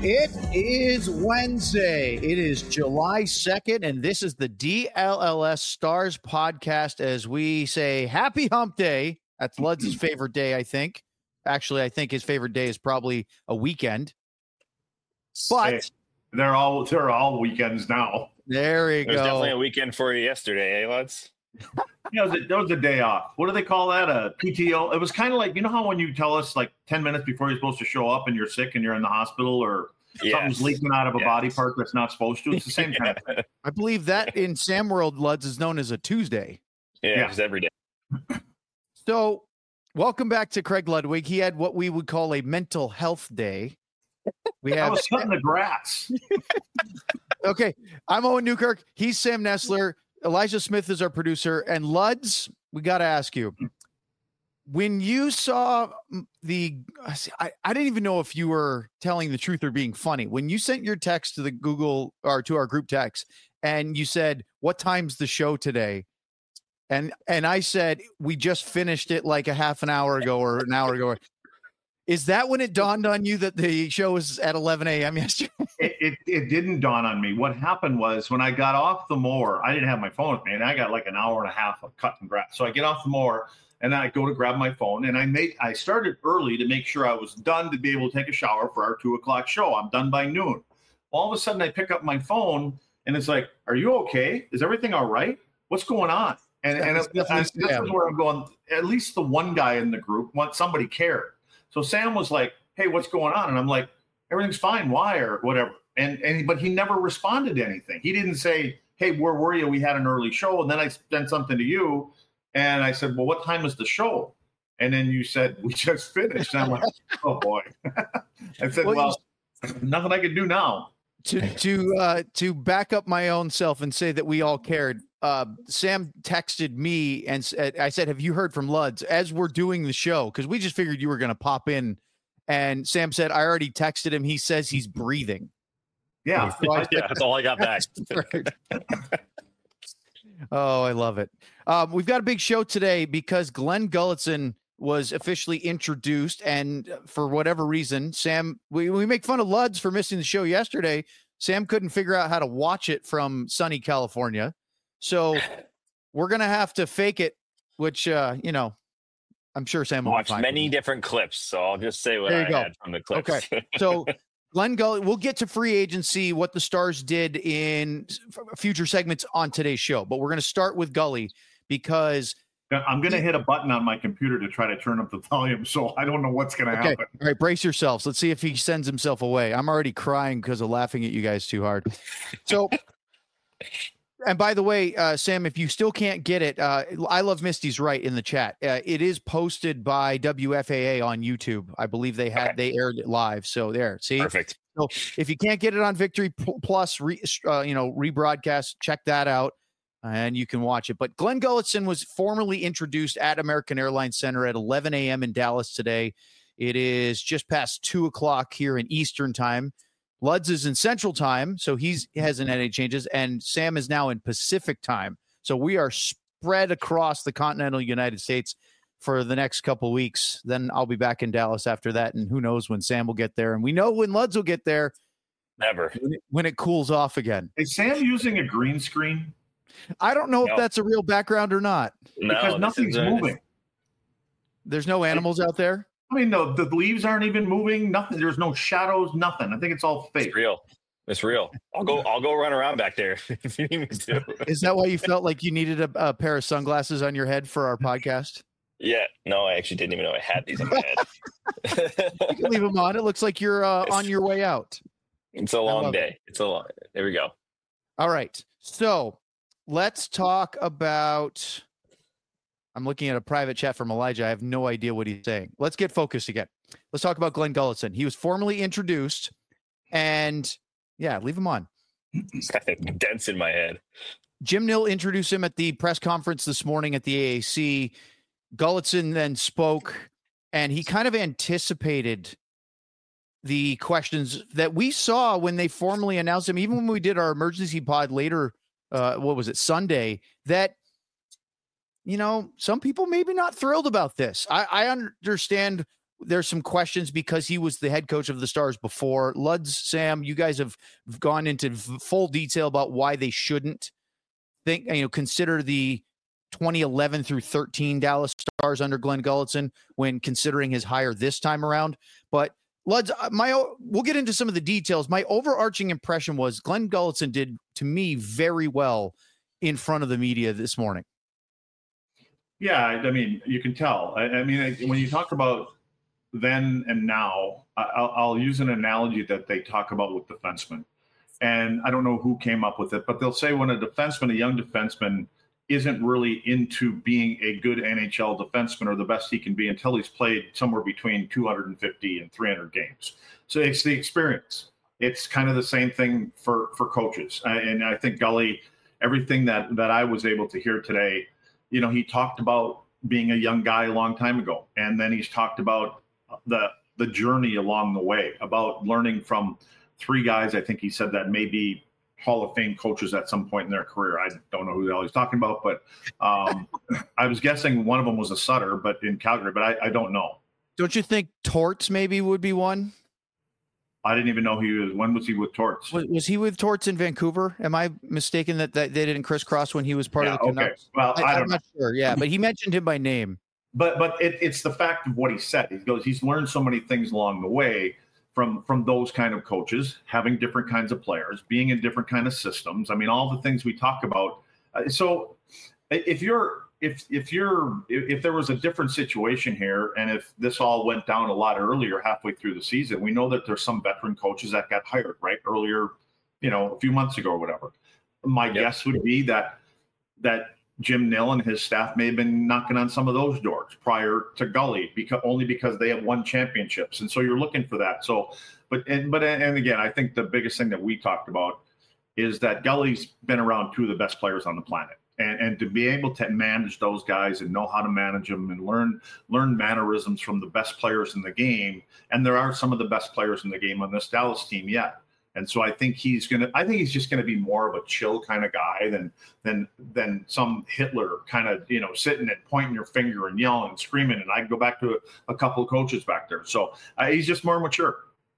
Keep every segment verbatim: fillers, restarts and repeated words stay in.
It is Wednesday. It is July second, and this is the D L L S Stars podcast as we say happy hump day. That's Ludz's favorite day, I think. Actually, I think his favorite day is probably a weekend. But hey, they're all they're all weekends now. There you It was go. definitely a weekend for you yesterday, eh, Lutz? Yeah, that was, was a day off. What do they call that? A P T O? It was kind of like, you know how when you tell us like ten minutes before you're supposed to show up and you're sick and you're in the hospital or Yes. something's leaking out of a Yes. body part that's not supposed to? It's the same yeah. kind of thing. I believe that in Sam World, Luds is known as a Tuesday. Yeah, Yeah. just every day. So welcome back to Craig Ludwig. He had what we would call a mental health day. We I have was cutting the grass. Okay, I'm Owen Newkirk. He's Sam Nestler. Elijah Smith is our producer. And Luds, we got to ask you, when you saw the, I, I didn't even know if you were telling the truth or being funny. When you sent your text to the Google or to our group text and you said, what time's the show today? And, and I said, we just finished it like a half an hour ago or an hour ago. Is that when it dawned on you that the show was at eleven a.m. yesterday? It, it it didn't dawn on me. What happened was when I got off the mower, I didn't have my phone with me, and I got like an hour and a half of cutting grass. So I get off the mower and I go to grab my phone, and I made I started early to make sure I was done to be able to take a shower for our two o'clock show. I'm done by noon. All of a sudden, I pick up my phone, and it's like, "Are you okay? Is everything all right? What's going on?" And and That's it, I, this is where I'm going. At least the one guy in the group wants somebody cared. So Sam was like, "Hey, what's going on?" And I'm like, "Everything's fine. Why?" or whatever. And and but he never responded to anything. He didn't say, "Hey, where were you? We had an early show." And then I sent something to you, and I said, "Well, what time is the show?" And then you said, "We just finished." And I'm like, "Oh boy." I said, Well, "Well, nothing I can do now." to to uh to back up my own self and say that we all cared, uh Sam texted me and said, I said, have you heard from Luds as we're doing the show, because we just figured you were going to pop in, and Sam said, I already texted him, he says he's breathing. Yeah. So I- Yeah, that's all I got back. Oh, I love it. Um, we've got a big show today because Glenn Gulutzan was officially introduced, and for whatever reason, Sam, we, we make fun of Luds for missing the show yesterday. Sam couldn't figure out how to watch it from sunny California. So we're going to have to fake it, which, uh, you know, I'm sure Sam will Watched find many different clips, so I'll just say what There you I go. had from the clips. Okay. So Glenn Gull, we'll get to free agency, what the Stars did in f- future segments on today's show, but we're going to start with Gully because I'm going to hit a button on my computer to try to turn up the volume, so I don't know what's going to Okay. happen. All right, brace yourselves. Let's see if he sends himself away. I'm already crying because of laughing at you guys too hard. So, and by the way, uh, Sam, if you still can't get it, uh, I Love Misty's right in the chat. Uh, it is posted by W F A A on YouTube. I believe they had Okay. they aired it live. So there, see. Perfect. So if you can't get it on Victory P- Plus, re, uh, you know, rebroadcast, check that out. And you can watch it. But Glenn Gulutzan was formally introduced at American Airlines Center at eleven a.m. in Dallas today. It is just past two o'clock here in Eastern time. Luds is in Central time, so he's, he hasn't had any changes. And Sam is now in Pacific time. So we are spread across the continental United States for the next couple of weeks. Then I'll be back in Dallas after that. And who knows when Sam will get there. And we know when Luds will get there. Never. When it, when it cools off again. Is Sam using a green screen? I don't know No. if that's a real background or not. No, Because this nothing's is a- moving. There's no animals out there. I mean, no, the leaves aren't even moving. Nothing. There's no shadows. Nothing. I think it's all fake. It's real. It's real. I'll go. I'll go run around back there if you need me to. Is that why you felt like you needed a, a pair of sunglasses on your head for our podcast? Yeah. No, I actually didn't even know I had these in my head. You can leave them on. It looks like you're uh, on your way out. It's a love long it. day. It's a long. There we go. All right. So let's talk about. I'm looking at a private chat from Elijah. I have no idea what he's saying. Let's get focused again. Let's talk about Glenn Gulutzan. He was formally introduced, and yeah, leave him on. Dents in my head. Jim Nill introduced him at the press conference this morning at the A A C. Gulutzan then spoke, and he kind of anticipated the questions that we saw when they formally announced him, even when we did our emergency pod later, uh, what was it, Sunday, that, you know, some people maybe not thrilled about this. I, I understand there's some questions because he was the head coach of the Stars before. Luds, Sam, you guys have gone into full detail about why they shouldn't think, you know, consider the twenty eleven through thirteen Dallas Stars under Glenn Gulutzan when considering his hire this time around. But Luds, my we'll get into some of the details. My overarching impression was Glenn Gulutzan did, to me, very well in front of the media this morning. Yeah, I mean, you can tell. I, I mean, when you talk about then and now, I'll, I'll use an analogy that they talk about with defensemen. And I don't know who came up with it, but they'll say when a defenseman, a young defenseman, isn't really into being a good N H L defenseman or the best he can be until he's played somewhere between two hundred fifty and three hundred games. So it's the experience. It's kind of the same thing for, for coaches. And I think Gully, everything that, that I was able to hear today, you know, he talked about being a young guy a long time ago. And then he's talked about the, the journey along the way, about learning from three guys. I think he said that maybe Hall of Fame coaches at some point in their career. I don't know who the hell he's talking about, but um, I was guessing one of them was a Sutter, but in Calgary, but I, I don't know. Don't you think Torts maybe would be one? I didn't even know he was. When was he with Torts? Was, was he with Torts in Vancouver? Am I mistaken that, that they didn't crisscross when he was part yeah, of the Canucks? Okay. Well, I, I don't I'm know. not sure. Yeah, but he mentioned him by name. But but it, it's the fact of what he said. He goes, he's learned so many things along the way from from those kind of coaches, having different kinds of players, being in different kind of systems. I mean, all the things we talk about. Uh, so if you're if if you're if, if there was a different situation here, and if this all went down a lot earlier, halfway through the season, we know that there's some veteran coaches that got hired right earlier, you know, a few months ago or whatever. My yep. guess would be that that Jim Nill and his staff may have been knocking on some of those doors prior to Gully, because only because they have won championships. And so you're looking for that. So, but, and, but, and again, I think the biggest thing that we talked about is that Gully's been around two of the best players on the planet. And, and to be able to manage those guys and know how to manage them and learn, learn mannerisms from the best players in the game. And there are some of the best players in the game on this Dallas team yet. And so I think he's going to, I think he's just going to be more of a chill kind of guy than, than, than some Hitler kind of, you know, sitting and pointing your finger and yelling and screaming. And I can go back to a, a couple of coaches back there. So uh, he's just more mature.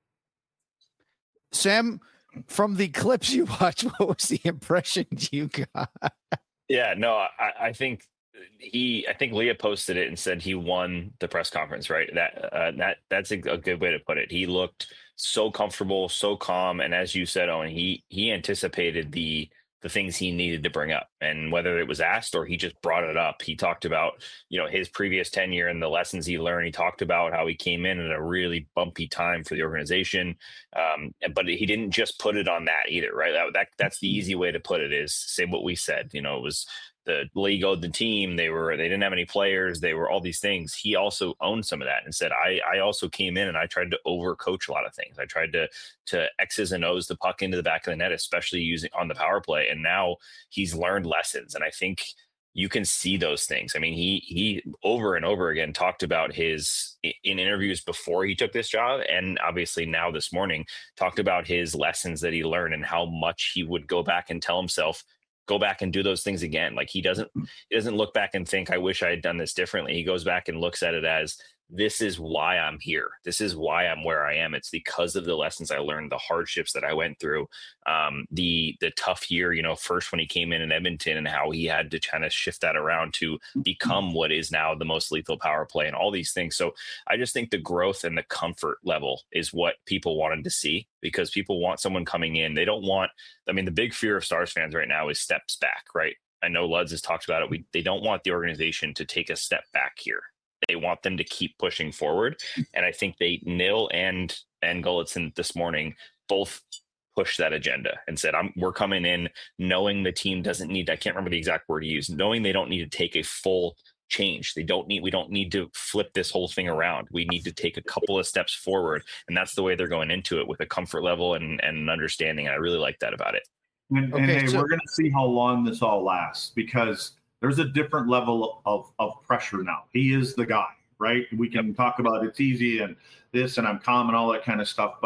Sam, from the clips you watched, what was the impression you got? Yeah, no, I, I think he, I think Leah posted it and said he won the press conference, right? That, uh, that, that's a, a good way to put it. He looked so comfortable, so calm. And as you said, Owen, he, he anticipated the, the things he needed to bring up, and whether it was asked or he just brought it up. He talked about, you know, his previous tenure and the lessons he learned. He talked about how he came in at a really bumpy time for the organization. Um, but he didn't just put it on that either, right? That, that that's the easy way to put it, is say what we said. You know, it was the league owed the team. They were, they didn't have any players. They were all these things. He also owned some of that and said, I, I also came in and I tried to overcoach a lot of things. I tried to, to X's and O's the puck into the back of the net, especially using on the power play. And now he's learned lessons. And I think you can see those things. I mean, he, he over and over again talked about his, in interviews before he took this job, and obviously now this morning, talked about his lessons that he learned and how much he would go back and tell himself, go back and do those things again. Like he doesn't, he doesn't look back and think, I wish I had done this differently. He goes back and looks at it as, this is why I'm here. This is why I'm where I am. It's because of the lessons I learned, the hardships that I went through, um, the the tough year, you know, first when he came in in Edmonton and how he had to kind of shift that around to become what is now the most lethal power play and all these things. So I just think the growth and the comfort level is what people wanted to see, because people want someone coming in. They don't want, I mean, the big fear of Stars fans right now is steps back, right? I know Luds has talked about it. We, they don't want the organization to take a step back here. They want them to keep pushing forward. And I think they, Nill and, and Gulutzan this morning, both pushed that agenda and said, I'm, we're coming in knowing the team doesn't need, I can't remember the exact word he used, knowing they don't need to take a full change. They don't need, we don't need to flip this whole thing around. We need to take a couple of steps forward. And that's the way they're going into it, with a comfort level and, and an understanding. I really like that about it. And, okay, and hey, so- we're going to see how long this all lasts, because there's a different level of, of pressure now. He is the guy, right? We can talk about it's easy and this and I'm calm and all that kind of stuff, but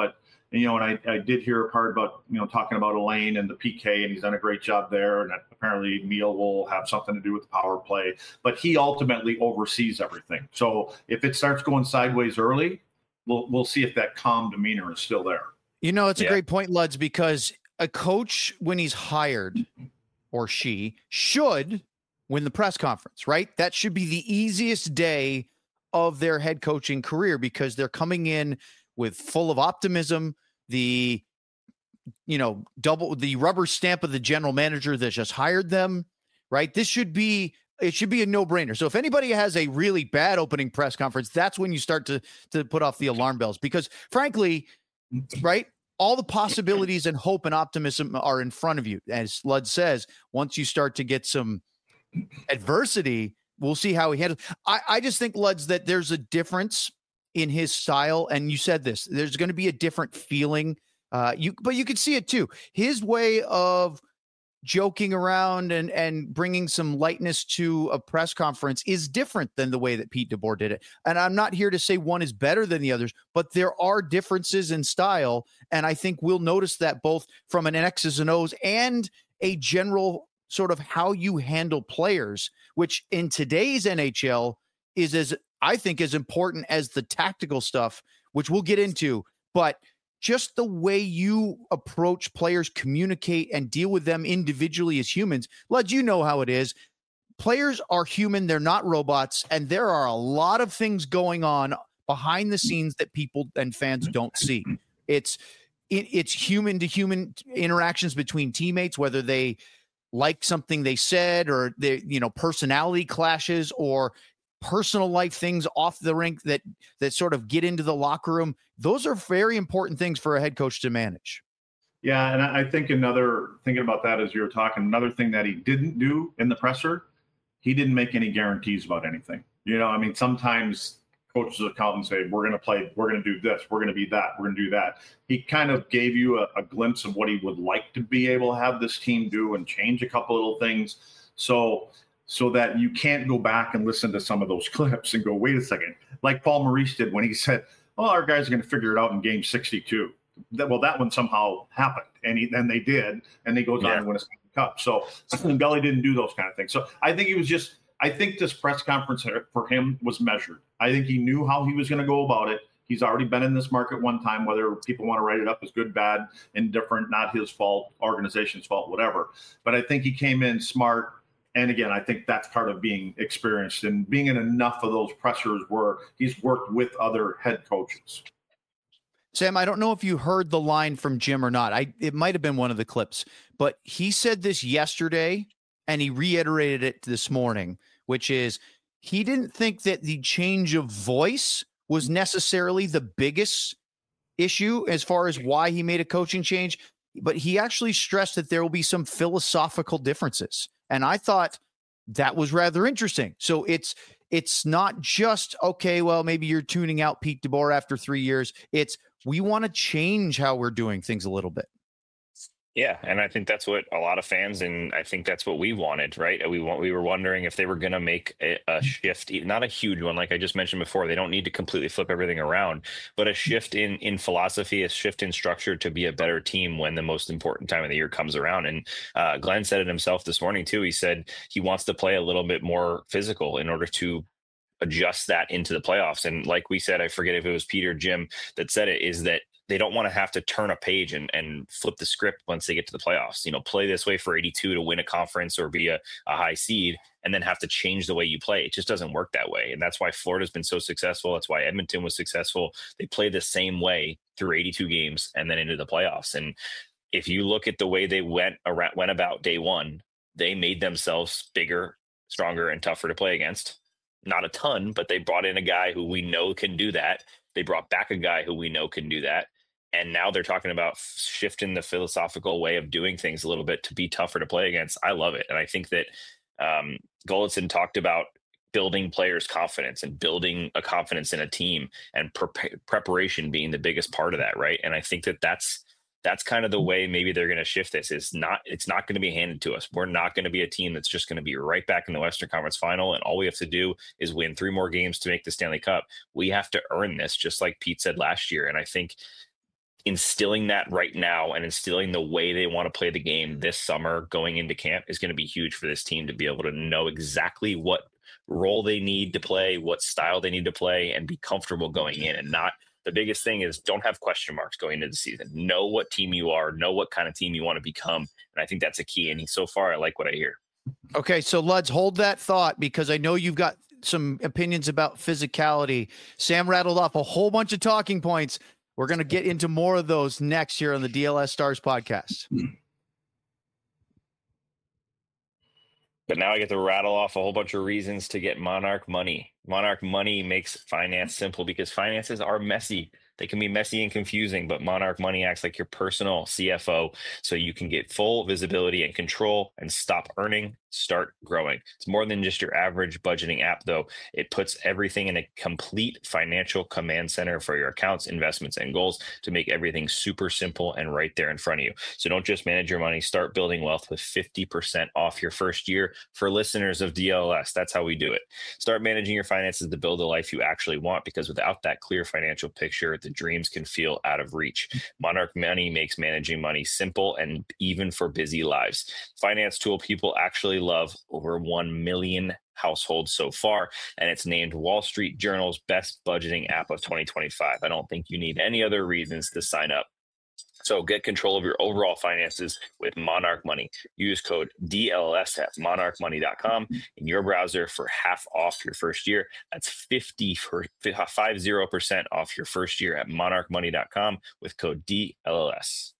And, you know, and I, I did hear a part about, you know, talking about Elaine and the P K, and he's done a great job there. And apparently Neil will have something to do with the power play, but he ultimately oversees everything. So if it starts going sideways early, we'll we'll see if that calm demeanor is still there. You know, it's a Yeah. great point, Luds, because a coach, when he's hired, or she should win the press conference, right? That should be the easiest day of their head coaching career, because they're coming in with full of optimism, the, you know, double the rubber stamp of the general manager that just hired them, right? This should be, it should be a no-brainer. So if anybody has a really bad opening press conference, that's when you start to, to put off the alarm bells, because frankly, right, all the possibilities and hope and optimism are in front of you. As Lud says, once you start to get some adversity, we'll see how he handles. I, I just think, Luds, that there's a difference in his style. And you said this, there's going to be a different feeling. Uh, you, but you could see it too. His way of joking around and, and bringing some lightness to a press conference is different than the way that Pete DeBoer did it. And I'm not here to say one is better than the others, but there are differences in style. And I think we'll notice that both from an X's and O's and a general sort of how you handle players, which in today's N H L is as, I think, as important as the tactical stuff, which we'll get into, but just the way you approach players, communicate, and deal with them individually as humans. Lud, you know how it is. Players are human. They're not robots. And there are a lot of things going on behind the scenes that people and fans don't see. It's, it, it's human to human interactions between teammates, whether they like something they said, or they, you know, personality clashes, or personal life things off the rink that that sort of get into the locker room. Those are very important things for a head coach to manage. Yeah, and I think another, thinking about that as you were talking, another thing that he didn't do in the presser, he didn't make any guarantees about anything. You know, I mean, sometimes coaches will come and say, we're going to play, we're going to do this, we're going to be that, we're going to do that. He kind of gave you a, a glimpse of what he would like to be able to have this team do and change a couple little things. So so that you can't go back and listen to some of those clips and go, wait a second, like Paul Maurice did when he said, oh, our guys are going to figure it out in game sixty-two. That, well, that one somehow happened, and he, then they did, and they goes yeah. on and win a Stanley Cup. So Belly didn't do those kind of things. So I think he was just, I think this press conference for him was measured. I think he knew how he was going to go about it. He's already been in this market one time, whether people want to write it up as good, bad, indifferent, not his fault, organization's fault, whatever. But I think he came in smart. And again, I think that's part of being experienced and being in enough of those pressers where he's worked with other head coaches. Sam, I don't know if you heard the line from Jim or not. I it might have been one of the clips, but he said this yesterday and he reiterated it this morning, which is he didn't think that the change of voice was necessarily the biggest issue as far as why he made a coaching change, but he actually stressed that there will be some philosophical differences. And I thought that was rather interesting. So it's it's not just, okay, well, maybe you're tuning out Pete DeBoer after three years. It's we want to change how we're doing things a little bit. Yeah, and I think that's what a lot of fans, and I think that's what we wanted, right? We want, we were wondering if they were going to make a, a shift, not a huge one, like I just mentioned before. They don't need to completely flip everything around, but a shift in in philosophy, a shift in structure to be a better team when the most important time of the year comes around. And uh, Glenn said it himself this morning too. He said he wants to play a little bit more physical in order to adjust that into the playoffs. And like we said, I forget if it was Peter or Jim that said it, is that they don't want to have to turn a page and, and flip the script once they get to the playoffs. You know, play this way for eighty-two to win a conference or be a, a high seed, and then have to change the way you play. It just doesn't work that way. And that's why Florida's been so successful. That's why Edmonton was successful. They play the same way through eighty-two games and then into the playoffs. And if you look at the way they went around, went about day one, they made themselves bigger, stronger, and tougher to play against. Not a ton, but they brought in a guy who we know can do that. They brought back a guy who we know can do that. And now they're talking about shifting the philosophical way of doing things a little bit to be tougher to play against. I love it. And I think that um, Golitzin talked about building players' confidence and building a confidence in a team, and pre- preparation being the biggest part of that, right? And I think that that's that's kind of the way maybe they're going to shift this. Is not it's not going to be handed to us. We're not going to be a team that's just going to be right back in the Western Conference Final, and all we have to do is win three more games to make the Stanley Cup. We have to earn this, just like Pete said last year. And I think instilling that right now and instilling the way they want to play the game this summer going into camp is going to be huge for this team to be able to know exactly what role they need to play, what style they need to play, and be comfortable going in. And not the biggest thing is don't have question marks going into the season. Know what team you are, know what kind of team you want to become. And I think that's a key. And so far, I like what I hear. Okay, so Luds, hold that thought, because I know you've got some opinions about physicality. Sam rattled off a whole bunch of talking points. We're going to get into more of those next here on the D L S Stars podcast. But now I get to rattle off a whole bunch of reasons to get Monarch money. Monarch money makes finance simple because finances are messy. They can be messy and confusing, but Monarch money acts like your personal C F O, so you can get full visibility and control and stop earning, start growing. It's more than just your average budgeting app, though. It puts everything in a complete financial command center for your accounts, investments, and goals to make everything super simple and right there in front of you. So don't just manage your money, start building wealth with fifty percent off your first year for listeners of D L S. That's how we do it. Start managing your finances to build a life you actually want, because without that clear financial picture, the dreams can feel out of reach. Monarch Money makes managing money simple and even for busy lives. Finance tool people actually love, over one million households so far, and it's named Wall Street Journal's best budgeting app of twenty twenty-five. I don't think you need any other reasons to sign up. So get control of your overall finances with Monarch Money. Use code D L S at monarch money dot com in your browser for half off your first year. That's fifty for fifty percent off your first year at monarch money dot com with code D L S.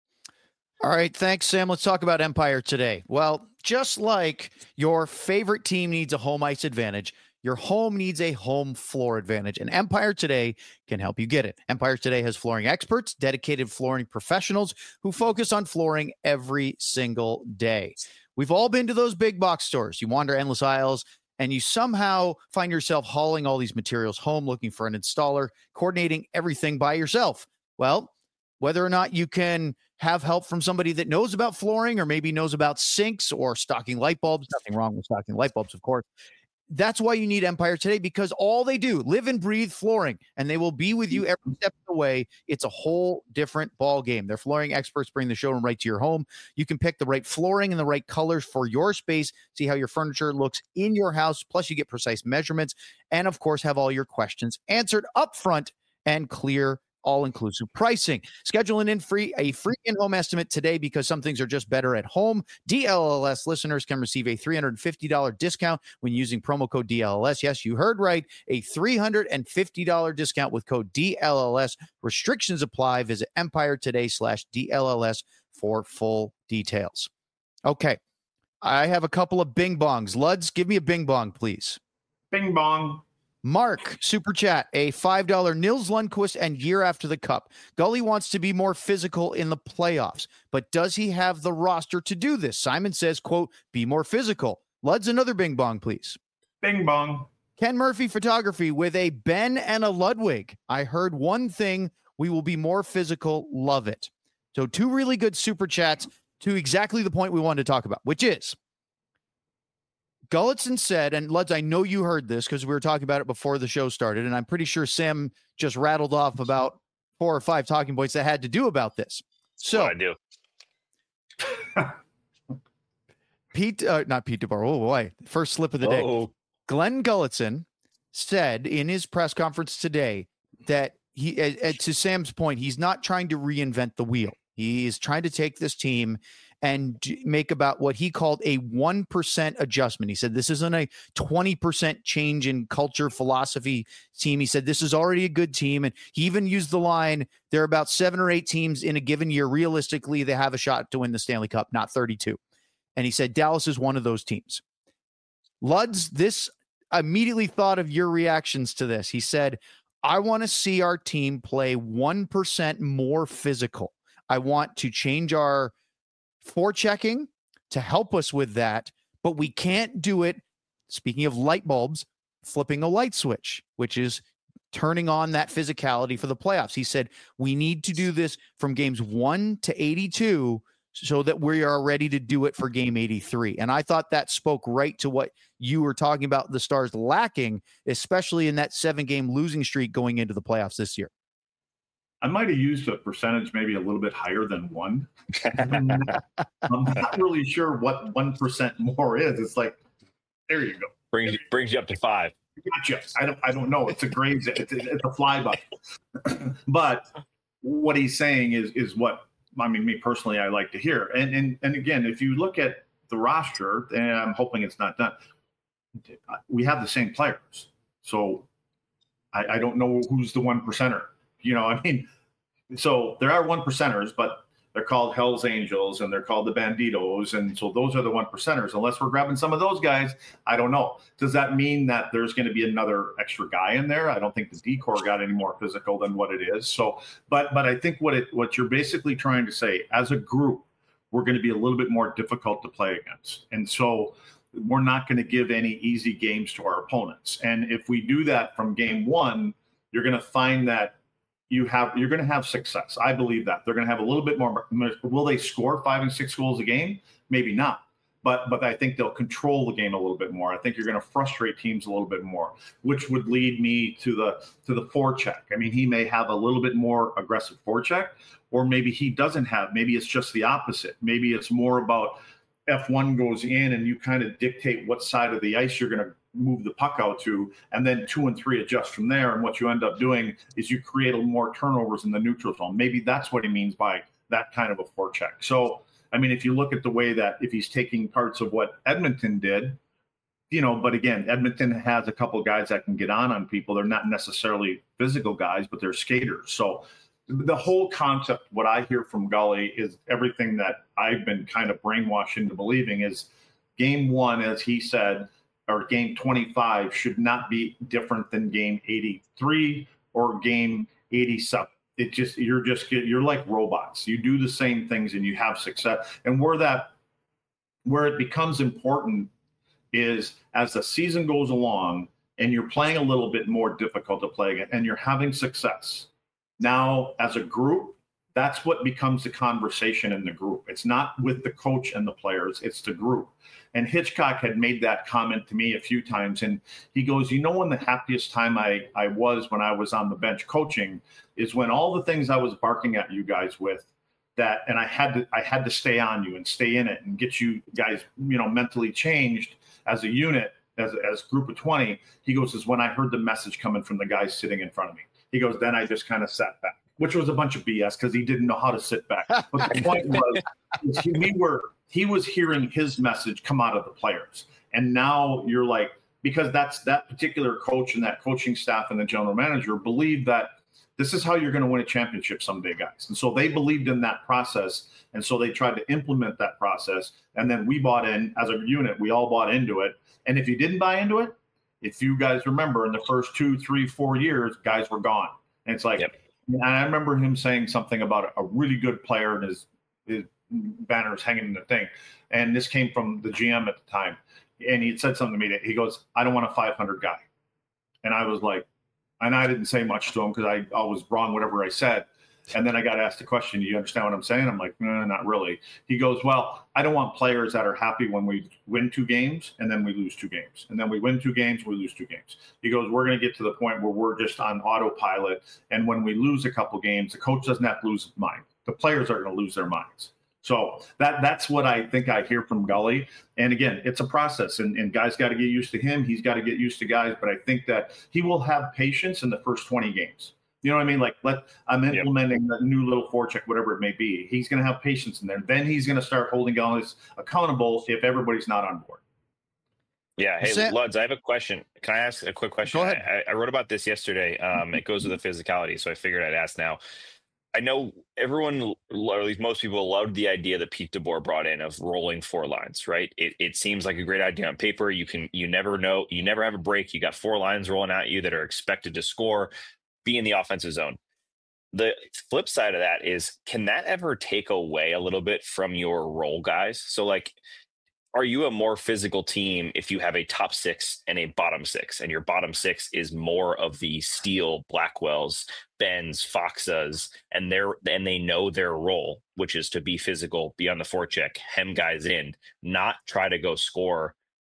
All right, thanks, Sam. Let's talk about Empire today. Well, just like your favorite team needs a home ice advantage, your home needs a home floor advantage, and Empire Today can help you get it. Empire Today has flooring experts, dedicated flooring professionals who focus on flooring every single day. We've all been to those big box stores. You wander endless aisles, and you somehow find yourself hauling all these materials home, looking for an installer, coordinating everything by yourself. Well, whether or not you can have help from somebody that knows about flooring or maybe knows about sinks or stocking light bulbs, nothing wrong with stocking light bulbs, of course. That's why you need Empire Today, because all they do, live and breathe flooring, and they will be with you every step of the way. It's a whole different ball game. Their flooring experts bring the showroom right to your home. You can pick the right flooring and the right colors for your space, see how your furniture looks in your house, plus you get precise measurements, and of course have all your questions answered up front and clear all-inclusive pricing. Schedule an in free a free in-home estimate today, because some things are just better at home. D L L S listeners can receive a three hundred fifty dollars discount when using promo code D L L S. Yes, you heard right. A three hundred fifty dollars discount with code D L L S. Restrictions apply. Visit Empire Today slash D L L S for full details. Okay. I have a couple of bing bongs. Luds, give me a bing bong, please. Bing bong. Mark, super chat, a five dollars Nils Lundqvist and year after the cup. Gully wants to be more physical in the playoffs, but does he have the roster to do this? Simon says, quote, be more physical. Lud's another bing bong, please. Bing bong. Ken Murphy Photography with a Ben and a Ludwig. I heard one thing, we will be more physical. Love it. So two really good super chats to exactly the point we wanted to talk about, which is Gulutzan said, and Luds, I know you heard this because we were talking about it before the show started, and I'm pretty sure Sam just rattled off about four or five talking points that had to do about this. So what I do. Pete, uh, not Pete DeBoer. Oh boy, first slip of the day. Oh. Glenn Gulutzan said in his press conference today that he, uh, to Sam's point, he's not trying to reinvent the wheel. He is trying to take this team and make about what he called a one percent adjustment. He said, this isn't a twenty percent change in culture, philosophy team. He said, this is already a good team. And he even used the line, there are about seven or eight teams in a given year. Realistically, they have a shot to win the Stanley Cup, not thirty-two. And he said, Dallas is one of those teams. Luds, this immediately thought of your reactions to this. He said, I want to see our team play one percent more physical. I want to change our forechecking to help us with that, but we can't do it, speaking of light bulbs, flipping a light switch, which is turning on that physicality for the playoffs. He said, we need to do this from games one to eighty-two so that we are ready to do it for game eighty-three. And I thought that spoke right to what you were talking about the Stars lacking, especially in that seven-game losing streak going into the playoffs this year. I might have used a percentage maybe a little bit higher than one. I'm not, I'm not really sure what one percent more is. It's like, there you go. brings you, brings you up to five. Gotcha. I don't I don't know. It's a grade. It's a, it's a flyby. But what he's saying is is what I mean. Me personally, I like to hear. And and and again, if you look at the roster, and I'm hoping it's not done, we have the same players. So I, I don't know who's the one percenter. You know, I mean, so there are one percenters, but they're called Hell's Angels and they're called the Banditos. And so those are the one percenters. Unless we're grabbing some of those guys, I don't know. Does that mean that there's going to be another extra guy in there? I don't think the D-Corps got any more physical than what it is. So, but but I think what it what you're basically trying to say, as a group, we're going to be a little bit more difficult to play against. And so we're not going to give any easy games to our opponents. And if we do that from game one, you're going to find that you have you're going to have success. I believe that they're going to have a little bit more. Will they score five and six goals a game? Maybe not. But but I think they'll control the game a little bit more. I think you're going to frustrate teams a little bit more, which would lead me to the to the forecheck. I mean, he may have a little bit more aggressive forecheck, or maybe he doesn't have. Maybe it's just the opposite. Maybe it's more about F one goes in and you kind of dictate what side of the ice you're going to move the puck out to, and then two and three adjust from there. And what you end up doing is you create a more turnovers in the neutral zone. Maybe that's what he means by that kind of a forecheck. So, I mean, if you look at the way that if he's taking parts of what Edmonton did, you know, but again, Edmonton has a couple of guys that can get on on people. They're not necessarily physical guys, but they're skaters. So the whole concept, what I hear from Gully is everything that I've been kind of brainwashed into believing is game one, as he said, or game twenty-five should not be different than game eighty-three or game eighty-seven. It just, you're just, you're like robots. You do the same things and you have success. And where that, where it becomes important is as the season goes along and you're playing a little bit more difficult to play again and you're having success. Now, as a group, that's what becomes the conversation in the group. It's not with the coach and the players, it's the group. And Hitchcock had made that comment to me a few times. And he goes, you know, when the happiest time I, I was when I was on the bench coaching is when all the things I was barking at you guys with that, and I had to, I had to stay on you and stay in it and get you guys, you know, mentally changed as a unit, as as group of twenty. He goes, is when I heard the message coming from the guys sitting in front of me. He goes, then I just kind of sat back, which was a bunch of B S because he didn't know how to sit back. But the point was, was he, we were, he was hearing his message come out of the players. And now you're like, because that's that particular coach and that coaching staff and the general manager believe that this is how you're going to win a championship someday, guys. And so they believed in that process. And so they tried to implement that process. And then we bought in as a unit, we all bought into it. And if you didn't buy into it, if you guys remember in the first two, three, four years, guys were gone. And it's like, yep. And I remember him saying something about a really good player and his, his banners hanging in the thing. And this came from the G M at the time. And he had said something to me. He goes, I don't want a five hundred guy. And I was like, and I didn't say much to him because I, I was wrong, whatever I said. And then I got asked the question, do you understand what I'm saying? I'm like, no, not really. He goes, well, I don't want players that are happy when we win two games and then we lose two games. And then we win two games, we lose two games. He goes, we're going to get to the point where we're just on autopilot. And when we lose a couple games, the coach doesn't have to lose his mind. The players are going to lose their minds. So that that's what I think I hear from Gully. And again, it's a process, and, and guys got to get used to him. He's got to get used to guys. But I think that he will have patience in the first twenty games. You know what I mean? Like, let I'm implementing yep. that new little forecheck, whatever it may be. He's going to have patience in there. Then he's going to start holding guys accountable if everybody's not on board. Yeah. Hey, Sam, Luds, I have a question. Can I ask a quick question? Go ahead. I, I wrote about this yesterday. Um, it goes with the physicality, so I figured I'd ask now. I know everyone, or at least most people, loved the idea that Pete DeBoer brought in of rolling four lines, right? It it seems like a great idea on paper. You can, you never know, you never have a break. You got four lines rolling at you that are expected to score, be in the offensive zone. The flip side of that is, can that ever take away a little bit from your role guys? So like, are you a more physical team if you have a top six and a bottom six, and your bottom six is more of the Steele, Blackwells, Benz, Foxas, and they're and they know their role, which is to be physical, be on the forecheck, hem guys in, not try to go score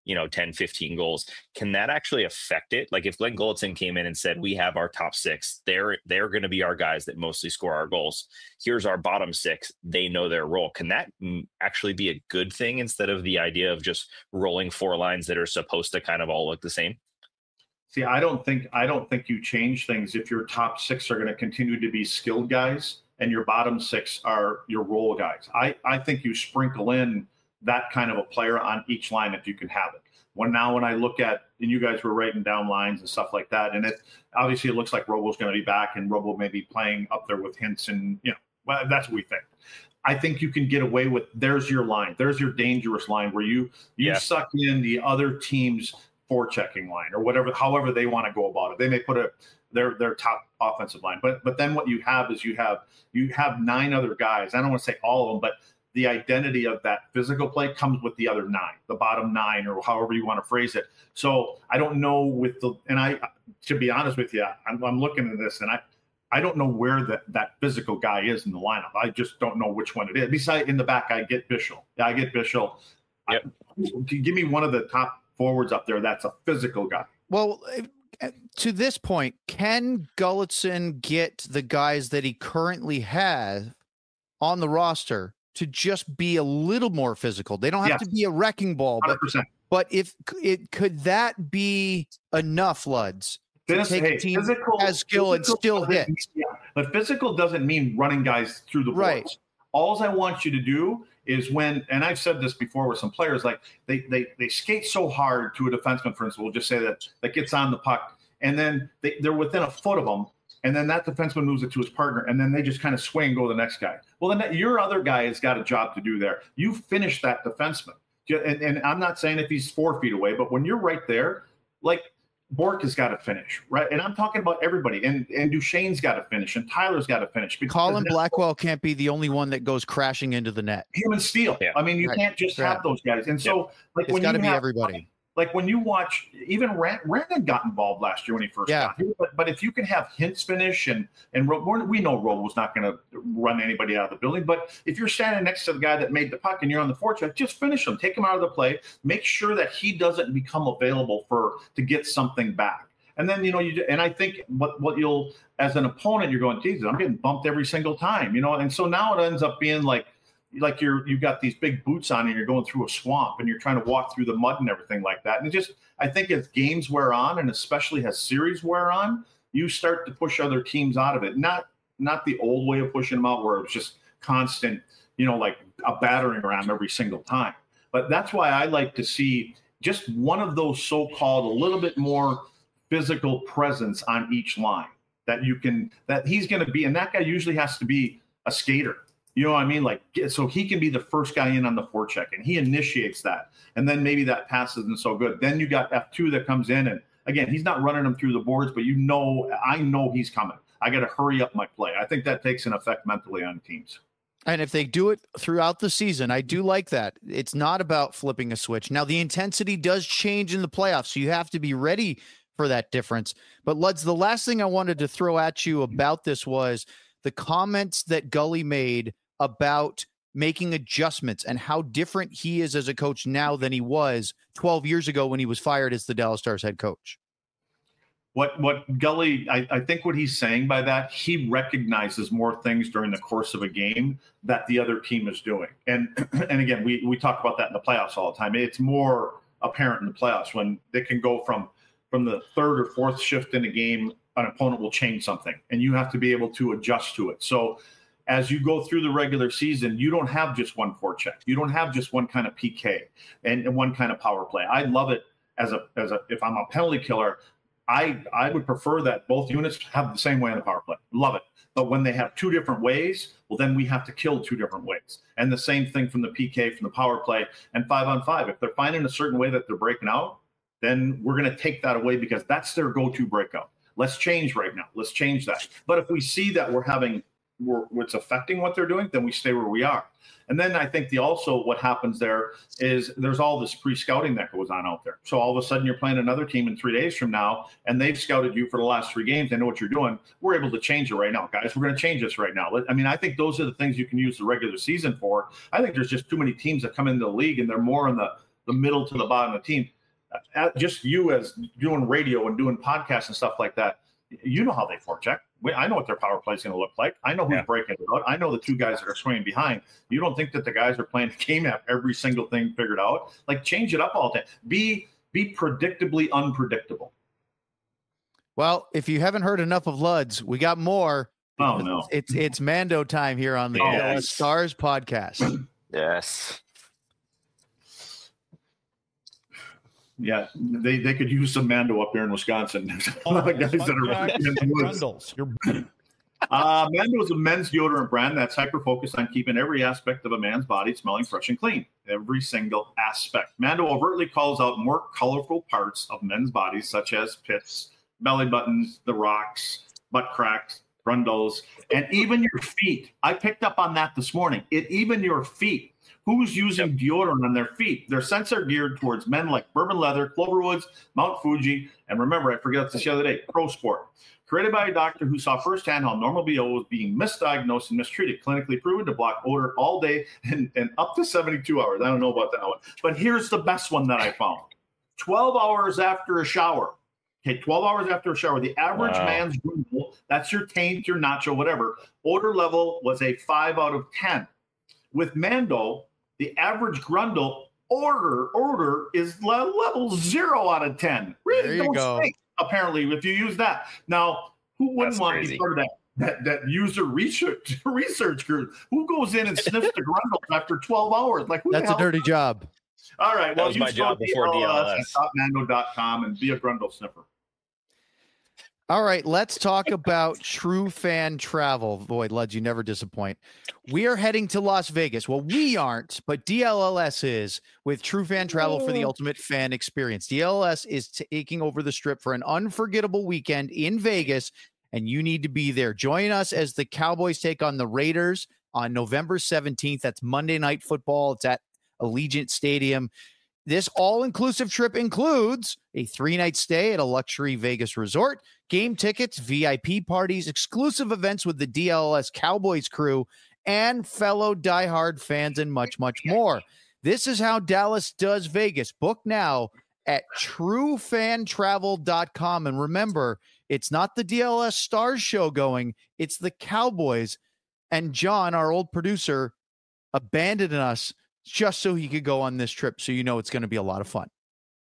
you know, ten, fifteen goals. Can that actually affect it? Like if Glenn Gulutzan came in and said, we have our top six, they're they're going to be our guys that mostly score our goals. Here's our bottom six. They know their role. Can that actually be a good thing instead of the idea of just rolling four lines that are supposed to kind of all look the same? See, I don't think I don't think you change things if your top six are going to continue to be skilled guys and your bottom six are your role guys. I, I think you sprinkle in that kind of a player on each line if you can have it. When now when I look at, and you guys were writing down lines and stuff like that, and it obviously it looks like Robo's going to be back and Robo may be playing up there with Hintz, and you know, well, that's what we think. I think you can get away with, there's your line, there's your dangerous line where you you yeah. suck in the other team's forechecking line or whatever, however they want to go about it. They may put a their their top offensive line, but but then what you have is you have you have nine other guys. I don't want to say all of them, but the identity of that physical play comes with the other nine, the bottom nine, or however you want to phrase it. So I don't know with the, and I, to be honest with you, I'm, I'm looking at this and I, I don't know where that, that physical guy is in the lineup. I just don't know which one it is. Besides, in the back, I get Bischel. Yeah, I get Bischel. Yep. I, give me one of the top forwards up there that's a physical guy. Well, to this point, can Gulutzan get the guys that he currently has on the roster to just be a little more physical? They don't have yes. to be a wrecking ball, but, but if it could that be enough, Luds, to This, take hey, a team physical, has skill and still hit? Mean, yeah, but physical doesn't mean running guys through the boards. Right. All I want you to do is when, and I've said this before with some players, like they they they skate so hard to a defenseman, for instance, we'll just say that that gets on the puck, and then they, they're within a foot of them. And then that defenseman moves it to his partner, and then they just kind of swing and go to the next guy. Well, then that, your other guy has got a job to do there. You finish that defenseman. And, and I'm not saying if he's four feet away, but when you're right there, like Bork has got to finish, right? And I'm talking about everybody. And, and Duchesne's got to finish, and Tyler's got to finish. Colin Blackwell can't be the only one that goes crashing into the net. Him and Steele. Yeah. I mean, you right. can't just right. have those guys. And so, yeah. like, it's when got you to be have, everybody. Like when you watch, even Rand, Randon got involved last year when he first yeah. got here. But, but if you can have Hintz finish, and and we know Robo's not going to run anybody out of the building. But if you're standing next to the guy that made the puck and you're on the forecheck, just finish him, take him out of the play, make sure that he doesn't become available for to get something back. And then, you know, you and I think what what you'll, as an opponent, you're going, Jesus, I'm getting bumped every single time, you know. And so now it ends up being like. like you're, you've got these big boots on and you're going through a swamp and you're trying to walk through the mud and everything like that. And it just, I think as games wear on, and especially as series wear on, you start to push other teams out of it. Not, not the old way of pushing them out where it was just constant, you know, like a battering ram every single time. But that's why I like to see just one of those so-called a little bit more physical presence on each line that you can, that he's going to be. And that guy usually has to be a skater. You know what I mean? Like, so he can be the first guy in on the forecheck, and he initiates that. And then maybe that pass isn't so good. Then you got F two that comes in, and again, he's not running them through the boards, but you know, I know he's coming. I got to hurry up my play. I think that takes an effect mentally on teams. And if they do it throughout the season, I do like that. It's not about flipping a switch. Now, the intensity does change in the playoffs, so you have to be ready for that difference. But Luds, the last thing I wanted to throw at you about this was the comments that Gully made about making adjustments and how different he is as a coach now than he was twelve years ago when he was fired as the Dallas Stars head coach. What what Gully, I, I think what he's saying by that, he recognizes more things during the course of a game that the other team is doing. And and again, we, we talk about that in the playoffs all the time. It's more apparent in the playoffs when they can go from, from the third or fourth shift in a game, an opponent will change something, and you have to be able to adjust to it. So as you go through the regular season, you don't have just one forecheck. You don't have just one kind of P K and, and one kind of power play. I love it as a as a if I'm a penalty killer, I I would prefer that both units have the same way on the power play. Love it. But when they have two different ways, well, then we have to kill two different ways. And the same thing from the P K, from the power play, and five on five. If they're finding a certain way that they're breaking out, then we're going to take that away because that's their go-to breakout. Let's change right now. Let's change that. But if we see that we're having We're, it's affecting what they're doing, then we stay where we are. And then I think the also what happens there is there's all this pre-scouting that goes on out there. So all of a sudden you're playing another team in three days from now, and they've scouted you for the last three games. They know what you're doing. We're able to change it right now, guys. We're going to change this right now. I mean, I think those are the things you can use the regular season for. I think there's just too many teams that come into the league, and they're more in the the middle to the bottom of the team. Uh, just you as doing radio and doing podcasts and stuff like that, you know how they forecheck. I know what their power play is going to look like. I know who's yeah. breaking it out. I know the two guys that are swinging behind. You don't think that the guys are playing the game have every single thing figured out? Like, change it up all the time. Be be predictably unpredictable. Well, if you haven't heard enough of Luds, we got more. Oh no, it's it's Mando time here on the yes. Stars podcast. Yes. Yeah, they, they could use some Mando up there in Wisconsin. A lot of guys that are really in the woods. Uh, Mando is a men's deodorant brand that's hyper-focused on keeping every aspect of a man's body smelling fresh and clean. Every single aspect. Mando overtly calls out more colorful parts of men's bodies, such as pits, belly buttons, the rocks, butt cracks, grundles, and even your feet. I picked up on that this morning. It even your feet. Who's using yep. deodorant on their feet? Their scents are geared towards men like Bourbon Leather, Cloverwoods, Mount Fuji, and remember, I forgot this the other day, Pro Sport. Created by a doctor who saw firsthand how normal B O was being misdiagnosed and mistreated, clinically proven to block odor all day and, and up to seventy-two hours. I don't know about that one. But here's the best one that I found. twelve hours after a shower. Okay, twelve hours after a shower, the average wow. man's grundle, that's your taint, your nacho, whatever, odor level was a five out of ten. With Mando, the average grundle order order is level zero out of ten. Really don't go. Stink, apparently, if you use that. Now, who wouldn't That's want crazy. to be part of that, that, that user research research group? Who goes in and sniffs the grundle after twelve hours? Like, who That's a dirty job. All right. That well, was my job before D L S. At top mando dot com and be a grundle sniffer. All right, let's talk about True Fan Travel. Boy, Luds, you never disappoint. We are heading to Las Vegas. Well, we aren't, but D L L S is with True Fan Travel for the ultimate fan experience. D L L S is taking over the Strip for an unforgettable weekend in Vegas, and you need to be there. Join us as the Cowboys take on the Raiders on November seventeenth. That's Monday Night Football. It's at Allegiant Stadium. This all-inclusive trip includes a three-night stay at a luxury Vegas resort, game tickets, V I P parties, exclusive events with the D L L S Cowboys crew, and fellow diehard fans, and much, much more. This is how Dallas does Vegas. Book now at true fan travel dot com. And remember, it's not the D L S Stars show going, it's the Cowboys. And John, our old producer, abandoned us just so he could go on this trip. So you know it's going to be a lot of fun.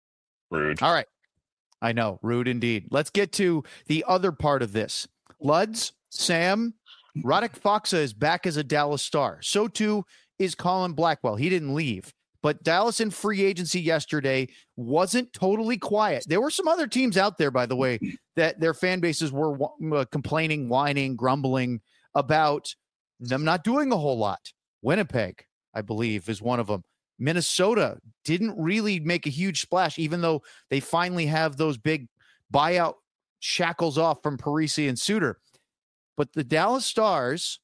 Rude. All right. I know. Rude indeed. Let's get to the other part of this. Luds, Sam, Radek Faksa is back as a Dallas Star. So too is Colin Blackwell. He didn't leave. But Dallas in free agency yesterday wasn't totally quiet. There were some other teams out there, by the way, that their fan bases were uh, complaining, whining, grumbling about them not doing a whole lot. Winnipeg, I believe, is one of them. Minnesota didn't really make a huge splash, even though they finally have those big buyout shackles off from Parisi and Suter. But the Dallas Stars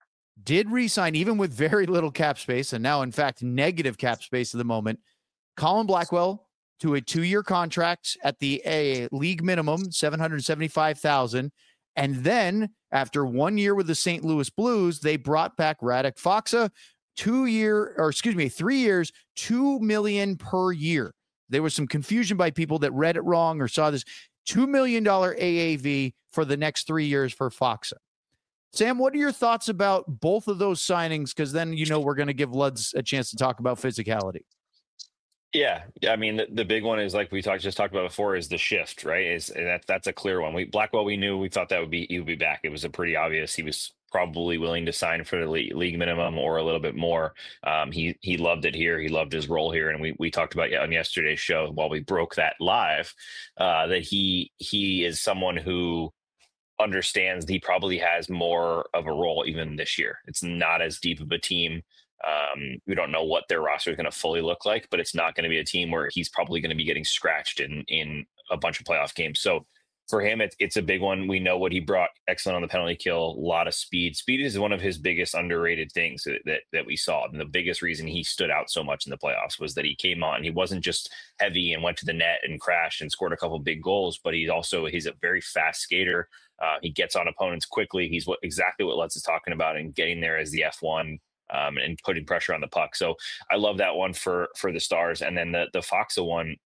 did re-sign, even with very little cap space, and now, in fact, negative cap space at the moment, Colin Blackwell to a two-year contract at the a league minimum, seven hundred seventy-five thousand dollars. And then, after one year with the Saint Louis Blues, they brought back Radek Faksa, two year, or excuse me, three years, two million per year. There was some confusion by people that read it wrong or saw this two million dollars A A V for the next three years for Faksa. Sam, what are your thoughts about both of those signings? Because then, you know, we're going to give Luds a chance to talk about physicality. Yeah, I mean, the, the big one is, like we talked just talked about before, is the shift, right? Is that that's a clear one. We Blackwell, we knew, we thought that would be he would be back. It was a pretty obvious. He was probably willing to sign for the league minimum or a little bit more. Um, he he loved it here. He loved his role here, and we we talked about on yesterday's show while we broke that live uh, that he he is someone who understands he probably has more of a role even this year. It's not as deep of a team. Um, we don't know what their roster is going to fully look like, but it's not going to be a team where he's probably going to be getting scratched in in a bunch of playoff games. So for him, it's it's a big one. We know what he brought. Excellent on the penalty kill, a lot of speed. Speed is one of his biggest underrated things that, that that we saw. And the biggest reason he stood out so much in the playoffs was that he came on. He wasn't just heavy and went to the net and crashed and scored a couple big goals, but he's also he's a very fast skater. Uh, he gets on opponents quickly. He's what exactly what Lutz is talking about, and getting there as the F one um, and putting pressure on the puck. So I love that one for for the Stars. And then the the Faksa one,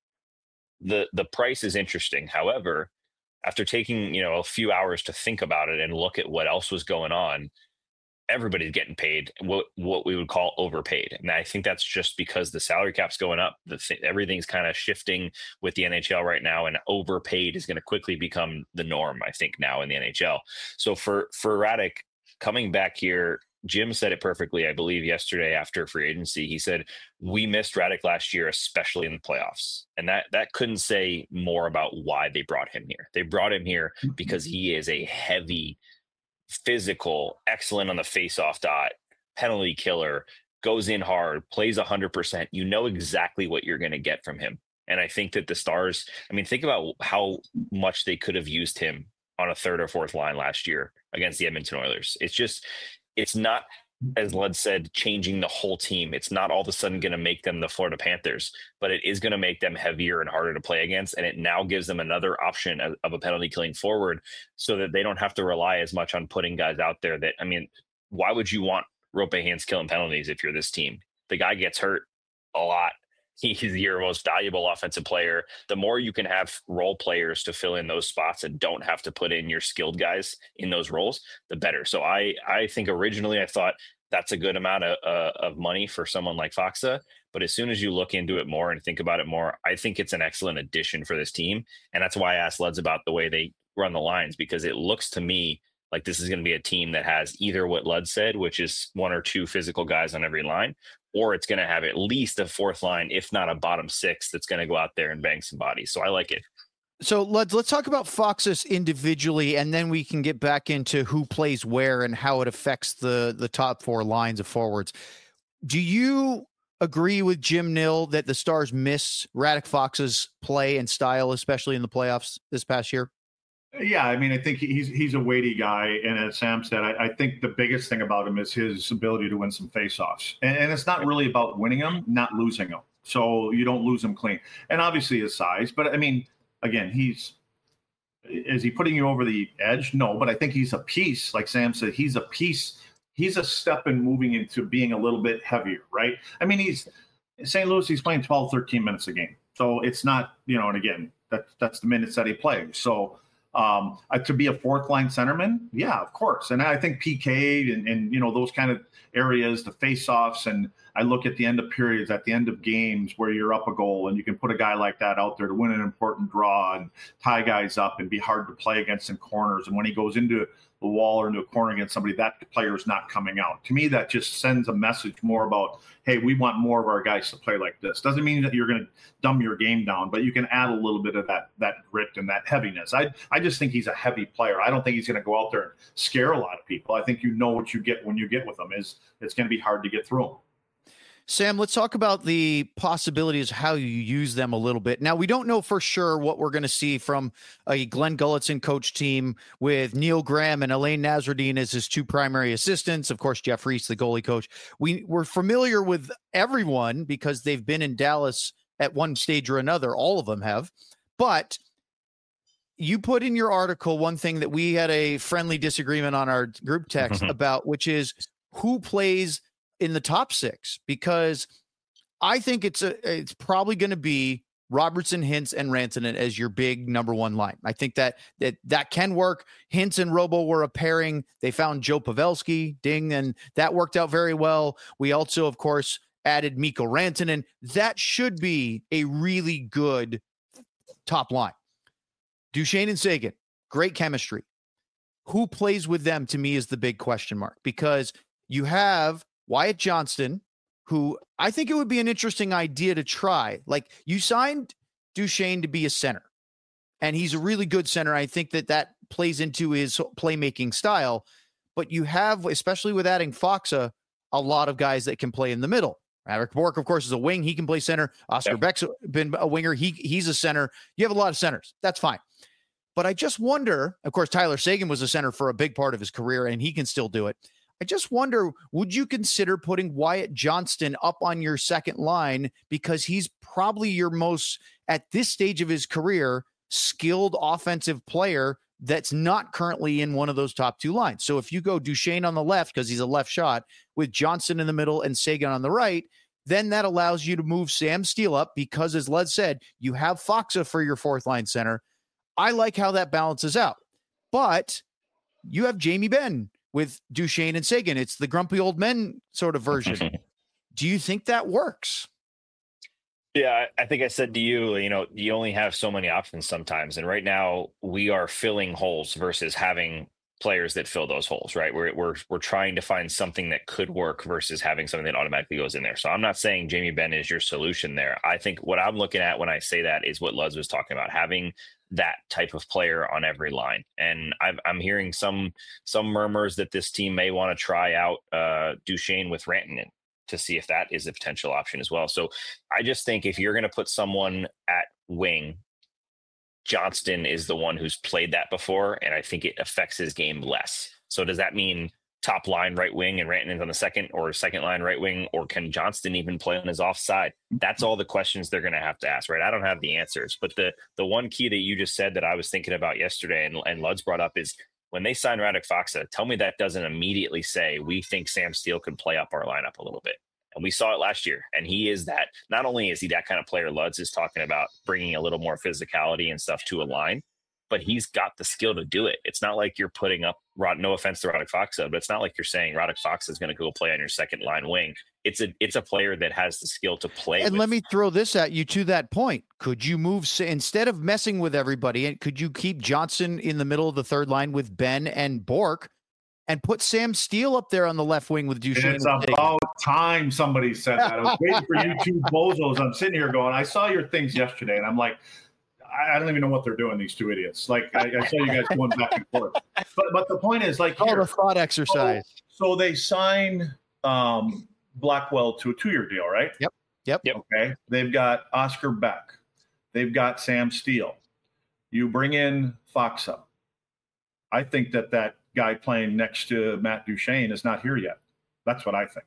the the price is interesting. However, after taking, you know, a few hours to think about it and look at what else was going on, everybody's getting paid what what we would call overpaid. And I think that's just because the salary cap's going up. The th- everything's kind of shifting with the N H L right now, and overpaid is going to quickly become the norm, I think, now in the N H L. So for for Radek coming back here, Jim said it perfectly, I believe, yesterday after free agency. He said, we missed Radek last year, especially in the playoffs. And that that couldn't say more about why they brought him here. They brought him here because he is a heavy, physical, excellent on the face-off dot, penalty killer, goes in hard, plays one hundred percent. You know exactly what you're going to get from him. And I think that the Stars, I mean, think about how much they could have used him on a third or fourth line last year against the Edmonton Oilers. It's just, it's not, as Lud said, changing the whole team. It's not all of a sudden going to make them the Florida Panthers, but it is going to make them heavier and harder to play against. And it now gives them another option of, of a penalty killing forward so that they don't have to rely as much on putting guys out there that, I mean, why would you want Rope Hands killing penalties if you're this team? The guy gets hurt a lot. He's your most valuable offensive player. The more you can have role players to fill in those spots and don't have to put in your skilled guys in those roles, the better. So I, I think originally I thought that's a good amount of, uh, of money for someone like Faksa. But as soon as you look into it more and think about it more, I think it's an excellent addition for this team. And that's why I asked Luds about the way they run the lines, because it looks to me like this is going to be a team that has either what Lud said, which is one or two physical guys on every line, or it's going to have at least a fourth line, if not a bottom six, that's going to go out there and bang some bodies. So I like it. So let's let's talk about Foxes individually, and then we can get back into who plays where and how it affects the the top four lines of forwards. Do you agree with Jim Nill that the Stars miss Radek Faksa's play and style, especially in the playoffs this past year? Yeah, I mean, I think he's he's a weighty guy, and as Sam said, I, I think the biggest thing about him is his ability to win some faceoffs, and, and it's not really about winning them, not losing them. So you don't lose them clean, and obviously his size. But I mean, again, he's is he putting you over the edge? No, but I think he's a piece. Like Sam said, he's a piece. He's a step in moving into being a little bit heavier, right? I mean, he's Saint Louis. He's playing twelve, thirteen minutes a game, so it's not, you know. And again, that that's the minutes that he plays. So. Um, uh, to be a fourth line centerman, yeah, of course. And I think P K and, and you know, those kind of areas, the face-offs, and I look at the end of periods, at the end of games where you're up a goal and you can put a guy like that out there to win an important draw and tie guys up and be hard to play against in corners. And when he goes into the wall or into a corner against somebody, that player is not coming out. To me, that just sends a message more about, hey, we want more of our guys to play like this. Doesn't mean that you're going to dumb your game down, but you can add a little bit of that that grit and that heaviness. I I just think he's a heavy player. I don't think he's going to go out there and scare a lot of people. I think you know what you get when you get with him is it's going to be hard to get through him. Sam, let's talk about the possibilities, how you use them a little bit. Now, we don't know for sure what we're going to see from a Glenn Gulutzan coach team with Neil Graham and Elaine Nasruddin as his two primary assistants. Of course, Jeff Reese, the goalie coach. We, we're familiar with everyone because they've been in Dallas at one stage or another. All of them have. But you put in your article one thing that we had a friendly disagreement on our group text about, which is who plays in the top six, because I think it's a, it's probably going to be Robertson, Hintz, and Rantanen as your big number one line. I think that that that can work. Hintz and Robo were a pairing. They found Joe Pavelski, ding, and that worked out very well. We also, of course, added Mikko Rantanen. That should be a really good top line. Duchesne and Seguin, great chemistry. Who plays with them, to me, is the big question mark, because you have Wyatt Johnston, who I think it would be an interesting idea to try. Like, you signed Duchesne to be a center, and he's a really good center. I think that that plays into his playmaking style, but you have, especially with adding Faksa, a lot of guys that can play in the middle. Eric Bork, of course, is a wing. He can play center. Oscar yep. Beck's been a winger. He he's a center. You have a lot of centers. That's fine. But I just wonder, of course, Tyler Seguin was a center for a big part of his career, and he can still do it. I just wonder, would you consider putting Wyatt Johnston up on your second line, because he's probably your most, at this stage of his career, skilled offensive player that's not currently in one of those top two lines. So if you go Duchesne on the left, because he's a left shot, with Johnson in the middle and Seguin on the right, then that allows you to move Sam Steele up because, as Led said, you have Faksa for your fourth line center. I like how that balances out. But you have Jamie Benn with Duchesne and Seguin. It's the grumpy old men sort of version. Do you think that works? Yeah, I think I said to you, you know, you only have so many options sometimes. And right now we are filling holes versus having players that fill those holes, right? We're, we're, we're trying to find something that could work versus having something that automatically goes in there. So I'm not saying Jamie Benn is your solution there. I think what I'm looking at when I say that is what Luz was talking about, having that type of player on every line. And I've, I'm hearing some, some murmurs that this team may want to try out uh, Duchesne with Rantanen to see if that is a potential option as well. So I just think if you're going to put someone at wing, Johnston is the one who's played that before, and I think it affects his game less. So does that mean top line right wing and Rantanen's on the second, or second line right wing, or can Johnston even play on his offside? That's all the questions they're going to have to ask, right? I don't have the answers, but the the one key that you just said that I was thinking about yesterday and, and Lud's brought up is when they sign Radek Faksa, tell me that doesn't immediately say we think Sam Steele can play up our lineup a little bit. And we saw it last year. And he is that, not only is he that kind of player, Lutz is talking about bringing a little more physicality and stuff to a line, but he's got the skill to do it. It's not like you're putting up, no offense to Radek Faksa, but it's not like you're saying Radek Faksa is going to go play on your second line wing. It's a it's a player that has the skill to play. And with. let me throw this at you to that point. Could you move, instead of messing with everybody, could you keep Johnson in the middle of the third line with Ben and Bork and put Sam Steele up there on the left wing with Duchesne? It's about time somebody said that. I was waiting for you two bozos. I'm sitting here going, I saw your things yesterday, and I'm like, I don't even know what they're doing, these two idiots. Like, I, I saw you guys going back and forth. But but the point is, like, oh, the thought exercise. So, so they sign um, Blackwell to a two-year deal, right? Yep. Yep. Yep. Okay. They've got Oscar Beck. They've got Sam Steele. You bring in Faksa. I think that that guy playing next to Matt Duchesne is not here yet. That's what I think.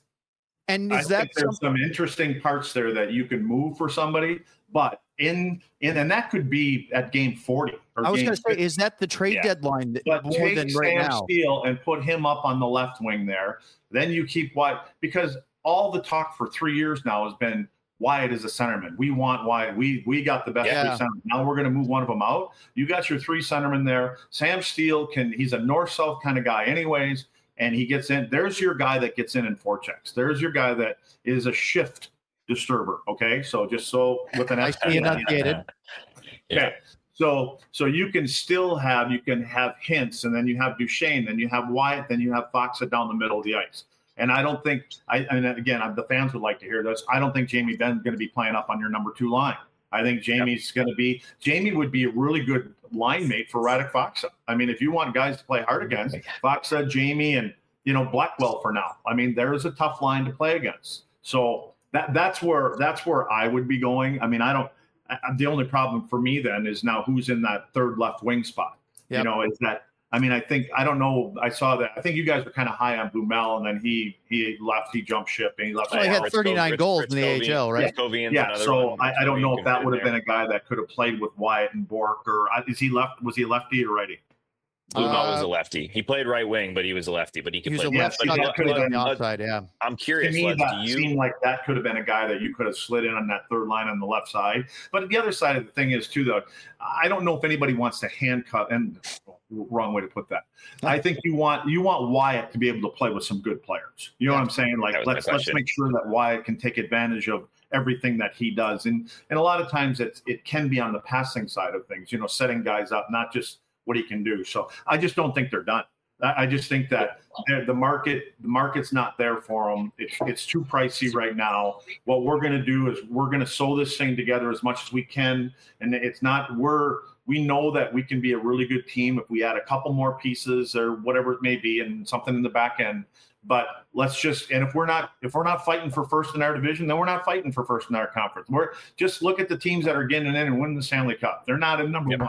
And is I that think there's some interesting parts there that you can move for somebody, but in in and that could be at game forty. Or I was going to say, is that the trade yeah. deadline that, but more take than right Sam now? Steele and put him up on the left wing there. Then you keep Wyatt, because all the talk for three years now has been Wyatt is a centerman. We want Wyatt. We we got the best Yeah. three centermen. Now we're going to move one of them out. You got your three centermen there. Sam Steele can. He's a north-south kind of guy, anyways. And he gets in. There's your guy that gets in and forechecks. There's your guy that is a shift disturber. Okay, so just so with an I S see enunciated. Okay, so so you can still have you can have Hintz, and then you have Duchesne, then you have Wyatt, then you have Faksa down the middle of the ice. And I don't think I and again the fans would like to hear this. I don't think Jamie Benn's going to be playing up on your number two line. I think Jamie's yep. going to be Jamie would be a really good line mate for Radek Faksa. I mean, if you want guys to play hard against, Faksa, Jamie, and you know Blackwell for now. I mean, there's a tough line to play against. So that that's where that's where I would be going. I mean, I don't. I, the only problem for me then is now who's in that third left wing spot. Yep. You know, is that. I mean, I think I don't know. I saw that. I think you guys were kind of high on Blumel, and then he he left. He jumped ship, and he left. Well, he had thirty-nine Rich, goals Rich in the Covey, A H L, right? Yeah. yeah so I, I don't know if that would have been a guy that could have played with Wyatt and Bork, or is he left? Was he lefty or righty? Blumel uh, was a lefty. He played right wing, but he was a lefty. But he could he play. Was a lefty. Yeah, that could have been the outside. Yeah. I'm curious. To me, Les, that do you... seemed like that could have been a guy that you could have slid in on that third line on the left side. But the other side of the thing is too, though, I don't know if anybody wants to handcuff. And wrong way to put that. I think you want you want Wyatt to be able to play with some good players. You know yeah. what I'm saying? Like let's let's make sure that Wyatt can take advantage of everything that he does. And and a lot of times it's it can be on the passing side of things. You know, setting guys up, not just what he can do. So I just don't think they're done. I just think that the market, the market's not there for them. It's, it's too pricey right now. What we're going to do is we're going to sew this thing together as much as we can. And it's not, we're, we know that we can be a really good team if we add a couple more pieces or whatever it may be and something in the back end. But let's just, and if we're not, if we're not fighting for first in our division, then we're not fighting for first in our conference. We're just look at the teams that are getting in and winning the Stanley Cup. They're not in number yep. one.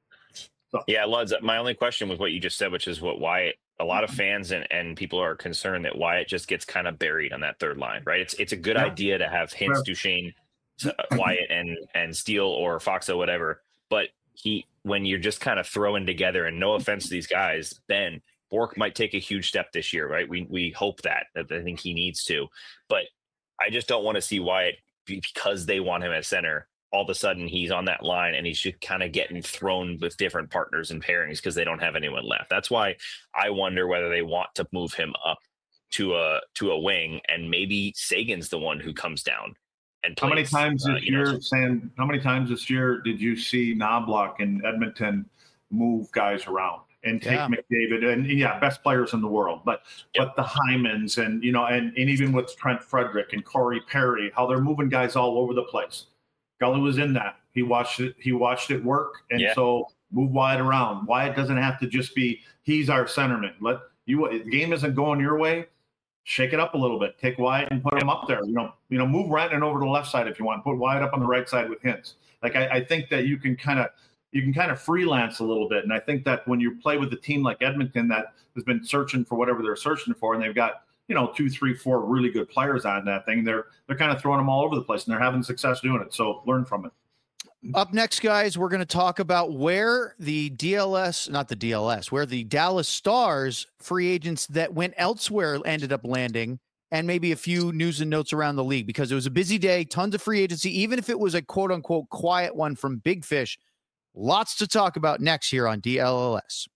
So. Yeah, Luds, my only question was what you just said, which is what Wyatt, a lot of fans and, and people are concerned that Wyatt just gets kind of buried on that third line, right? It's it's a good yeah. idea to have Hintz, Duchesne, uh, Wyatt, and and Steele or Faksa, whatever, but he when you're just kind of throwing together, and no offense to these guys, Ben Bourque might take a huge step this year, right? We we hope that. I think he needs to, but I just don't want to see Wyatt, because they want him at center, all of a sudden he's on that line and he's just kind of getting thrown with different partners and pairings because they don't have anyone left. That's why I wonder whether they want to move him up to a to a wing, and maybe Sagan's the one who comes down and plays. How many times uh, this you know, year, Sam, how many times this year did you see Knobloch and Edmonton move guys around and take Yeah. McDavid and yeah, best players in the world, but Yep. but the Hymans and you know, and, and even with Trent Frederick and Corey Perry, how they're moving guys all over the place. Gully was in that. He watched it, he watched it work, and Yeah. so move Wyatt around. Wyatt doesn't have to just be he's our centerman. Let you the game isn't going your way. Shake it up a little bit. Take Wyatt and put him up there. You know, you know, move Rantanen over to the left side if you want. Put Wyatt up on the right side with Hintz. Like I, I think that you can kind of you can kind of freelance a little bit. And I think that when you play with a team like Edmonton that has been searching for whatever they're searching for, and they've got, you know, two, three, four really good players on that thing, they're they're kind of throwing them all over the place and they're having success doing it. So learn from it. Up next, guys, we're going to talk about where the D L S, not the D L S, where the Dallas Stars free agents that went elsewhere ended up landing, and maybe a few news and notes around the league, because it was a busy day, tons of free agency, even if it was a quote unquote quiet one from Big Fish. Lots to talk about next here on D L L S.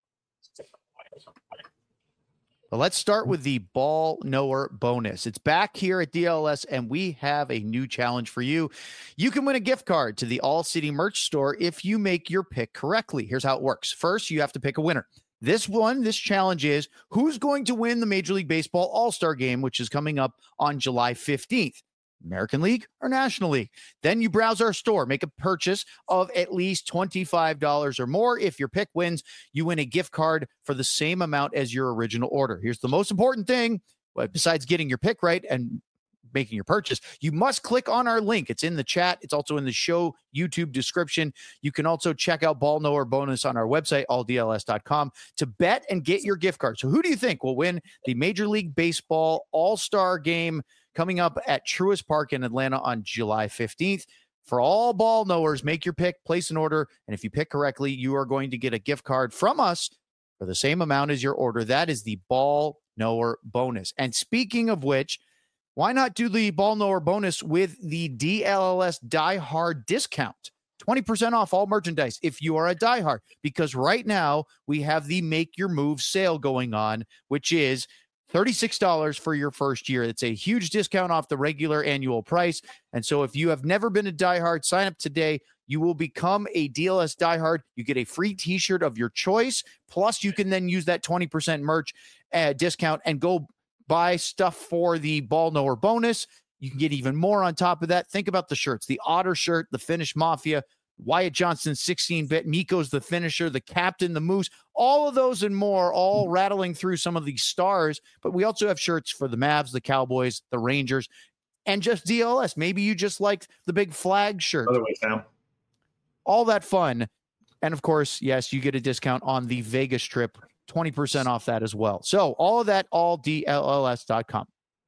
But let's start with the ball knower bonus. It's back here at D L S, and we have a new challenge for you. You can win a gift card to the All City merch store if you make your pick correctly. Here's how it works. First, you have to pick a winner. This one, this challenge is who's going to win the Major League Baseball All-Star Game, which is coming up on July fifteenth. American League or National League. Then you browse our store, make a purchase of at least twenty-five dollars or more. If your pick wins, you win a gift card for the same amount as your original order. Here's the most important thing, well, besides getting your pick right and making your purchase, you must click on our link. It's in the chat. It's also in the show YouTube description. You can also check out Ball Knower Bonus on our website, all D L S dot com, to bet and get your gift card. So who do you think will win the Major League Baseball All-Star Game coming up at Truist Park in Atlanta on July fifteenth? For all ball knowers, make your pick, place an order, and if you pick correctly, you are going to get a gift card from us for the same amount as your order. That is the Ball Knower Bonus. And speaking of which, why not do the Ball Knower Bonus with the D L L S Die Hard discount? twenty percent off all merchandise if you are a diehard, because right now we have the Make Your Move sale going on, which is thirty-six dollars for your first year. It's a huge discount off the regular annual price. And so if you have never been a diehard, sign up today. You will become a D L S diehard. You get a free t-shirt of your choice. Plus, you can then use that twenty percent merch uh, discount and go buy stuff for the Ball Knower Bonus. You can get even more on top of that. Think about the shirts, the Otter shirt, the Finnish Mafia, Wyatt Johnston sixteen bit, Mikko's the finisher, the captain, the Moose, all of those and more, all rattling through some of these stars. But we also have shirts for the Mavs, the Cowboys, the Rangers, and just D L S. Maybe you just like the big flag shirt. By the way, Sam. All that fun. And of course, yes, you get a discount on the Vegas trip, twenty percent off that as well. So all of that, all D L L S dot com.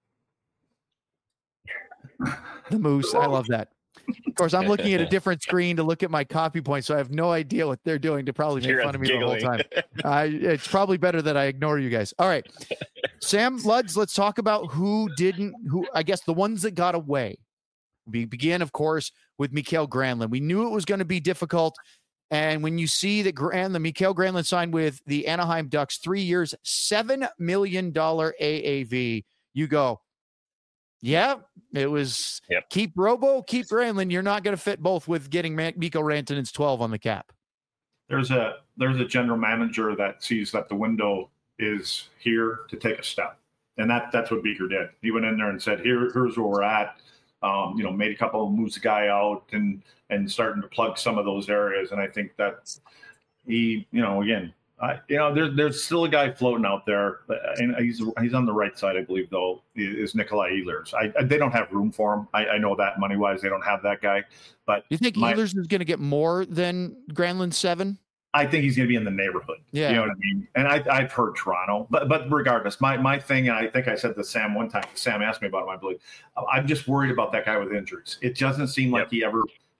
The Moose, I love that. Of course, I'm looking at a different screen to look at my copy points, so I have no idea what they're doing to probably make You're fun of me giggling. the whole time. I, it's probably better that I ignore you guys. All right, Sam Luds, let's talk about who didn't, who I guess the ones that got away. We begin, of course, with Mikael Granlund. We knew it was going to be difficult. And when you see that Granlund, Mikael Granlund signed with the Anaheim Ducks, three years, seven million dollars A A V, you go, yeah, it was Yep. keep Robo, keep Granlund. You're not going to fit both with getting Man- Mikko Rantanen's twelve on the cap. There's a there's a general manager that sees that the window is here to take a step, and that that's what Beaker did. He went in there and said, "Here, here's where we're at." Um, you know, made a couple of moves, the guy out, and and starting to plug some of those areas. And I think that he, you know, again, I, you know, there's there's still a guy floating out there, and he's he's on the right side, I believe, though, is Nikolai Ehlers. I, I they don't have room for him. I, I know that money wise, they don't have that guy. But You think my- Ehlers is going to get more than Granlund seven? I think he's going to be in the neighborhood. Yeah. You know what I mean? And I, I've heard Toronto, but but regardless, my my thing, and I think I said to Sam one time, Sam asked me about him, I believe, I'm just worried about that guy with injuries. It doesn't seem like Yep. he ever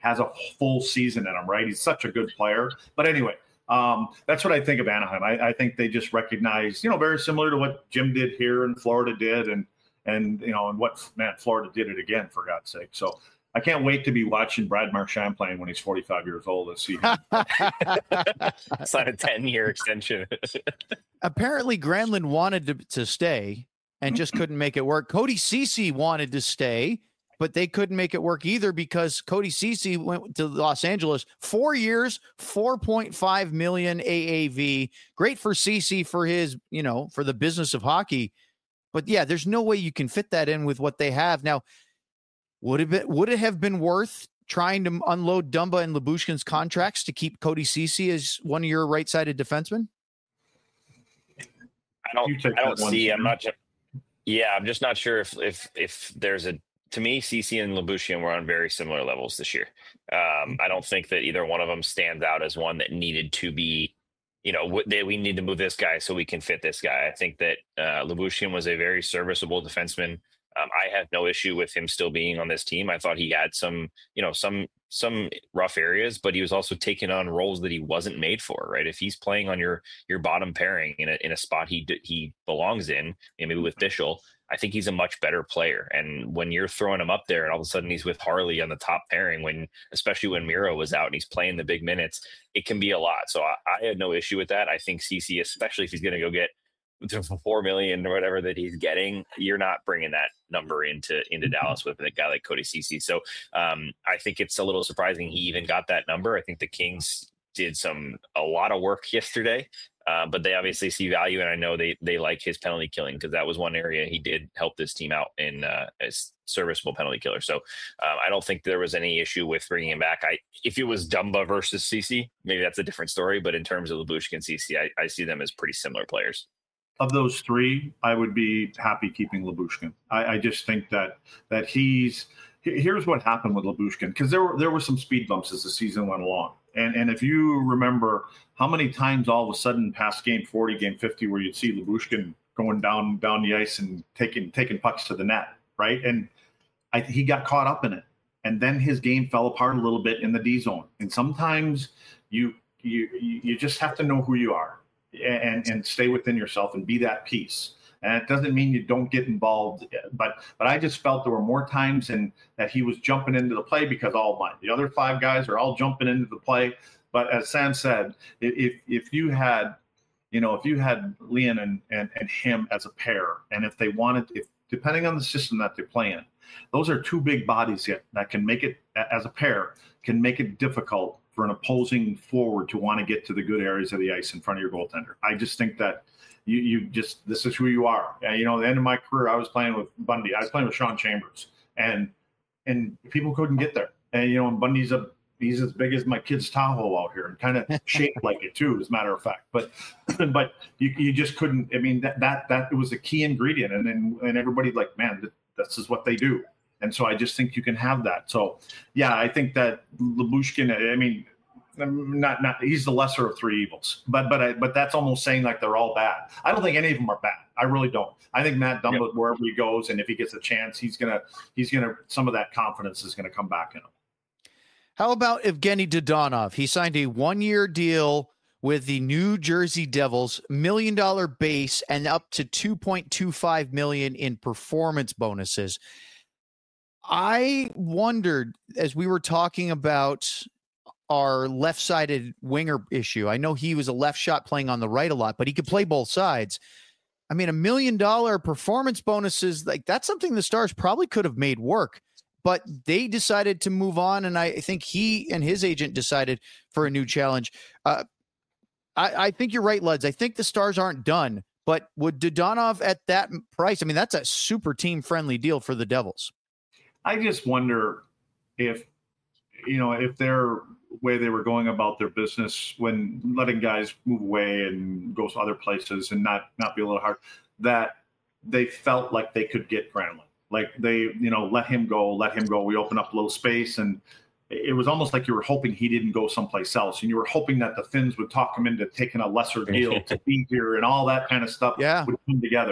has a full season in him, right? He's such a good player. But anyway, um, that's what I think of Anaheim. I, I think they just recognize, you know, very similar to what Jim did here and Florida did, and and you know, and what man, Florida did it again, for God's sake. So I can't wait to be watching Brad Marchand playing when he's forty-five years old this season. Sign a ten-year extension. Apparently, Granlund wanted to, to stay and just couldn't make it work. Cody Ceci wanted to stay, but they couldn't make it work either because Cody Ceci went to Los Angeles. Four years, four point five million A A V. Great for Ceci for his, you know, for the business of hockey. But yeah, there's no way you can fit that in with what they have. Now, would it, be, would it have been worth trying to unload Dumba and Lyubushkin's contracts to keep Cody Ceci as one of your right-sided defensemen? I don't, I don't see, I'm not, yeah, I'm just not sure if, if, if there's a, to me, Ceci and Lyubushkin were on very similar levels this year. Um, I don't think that either one of them stands out as one that needed to be, you know, they, we need to move this guy so we can fit this guy. I think that uh, Lyubushkin was a very serviceable defenseman. Um, I have no issue with him still being on this team. I thought he had some, you know, some some rough areas, but he was also taking on roles that he wasn't made for. Right? If he's playing on your your bottom pairing in a in a spot he he belongs in, maybe with Bichel, I think he's a much better player. And when you're throwing him up there, and all of a sudden he's with Harley on the top pairing, when especially when Miro was out and he's playing the big minutes, it can be a lot. So I, I had no issue with that. I think Ceci, especially if he's going to go get to four million or whatever that he's getting, you're not bringing that number into into Dallas with a guy like Cody Ceci. So um, I think it's a little surprising he even got that number. I think the Kings did some a lot of work yesterday, uh, but they obviously see value, and I know they they like his penalty killing, because that was one area he did help this team out in uh, as serviceable penalty killer. So um, I don't think there was any issue with bringing him back. I if it was Dumba versus Ceci, maybe that's a different story. But in terms of Lyubushkin and Ceci, I, I see them as pretty similar players. Of those three, I would be happy keeping Lyubushkin. I, I just think that that he's here's what happened with Lyubushkin, because there were there were some speed bumps as the season went along, and and if you remember how many times all of a sudden past game forty, game fifty, where you'd see Lyubushkin going down down the ice and taking taking pucks to the net, right? And I, he got caught up in it, and then his game fell apart a little bit in the D zone. And sometimes you you you just have to know who you are. And, and stay within yourself and be that piece. And it doesn't mean you don't get involved, but but I just felt there were more times in that he was jumping into the play because all my the other five guys are all jumping into the play. But as Sam said, if if you had, you know, if you had Leon and and, and him as a pair, and if they wanted, if depending on the system that they play in, those are two big bodies that, that can make it as a pair can make it difficult for an opposing forward to want to get to the good areas of the ice in front of your goaltender. I just think that you you just, this is who you are. And, you know, at the end of my career, I was playing with Bundy. I was playing with Sean Chambers, and and people couldn't get there. And, you know, and Bundy's a, he's as big as my kid's Tahoe out here and kind of shaped like it too, as a matter of fact. But, but you, you just couldn't, I mean, that, that, that it was a key ingredient. And then, and everybody like, man, this is what they do. And so I just think you can have that. So, yeah, I think that Lyubushkin, I mean, not not he's the lesser of three evils, but but I, but that's almost saying like they're all bad. I don't think any of them are bad. I really don't. I think Matt Dumba, yep. wherever he goes, and if he gets a chance, he's gonna he's gonna some of that confidence is gonna come back in him. How about Evgeny Dodonov? He signed a one-year deal with the New Jersey Devils, million dollar base, and up to two point two five million in performance bonuses. I wondered, as we were talking about our left-sided winger issue, I know he was a left shot playing on the right a lot, but he could play both sides. I mean, a million dollar performance bonuses, like that's something the Stars probably could have made work, but they decided to move on. And I think he and his agent decided for a new challenge. Uh, I, I think you're right, Luds. I think the Stars aren't done, but would Dodonov at that price? I mean, that's a super team-friendly deal for the Devils. I just wonder if, you know, if their way they were going about their business when letting guys move away and go to other places and not, not be a little hard, that they felt like they could get Granlund. Like they, you know, let him go, let him go. We open up a little space, and it was almost like you were hoping he didn't go someplace else. And you were hoping that the Finns would talk him into taking a lesser deal to be here, and all that kind of stuff yeah. would come together.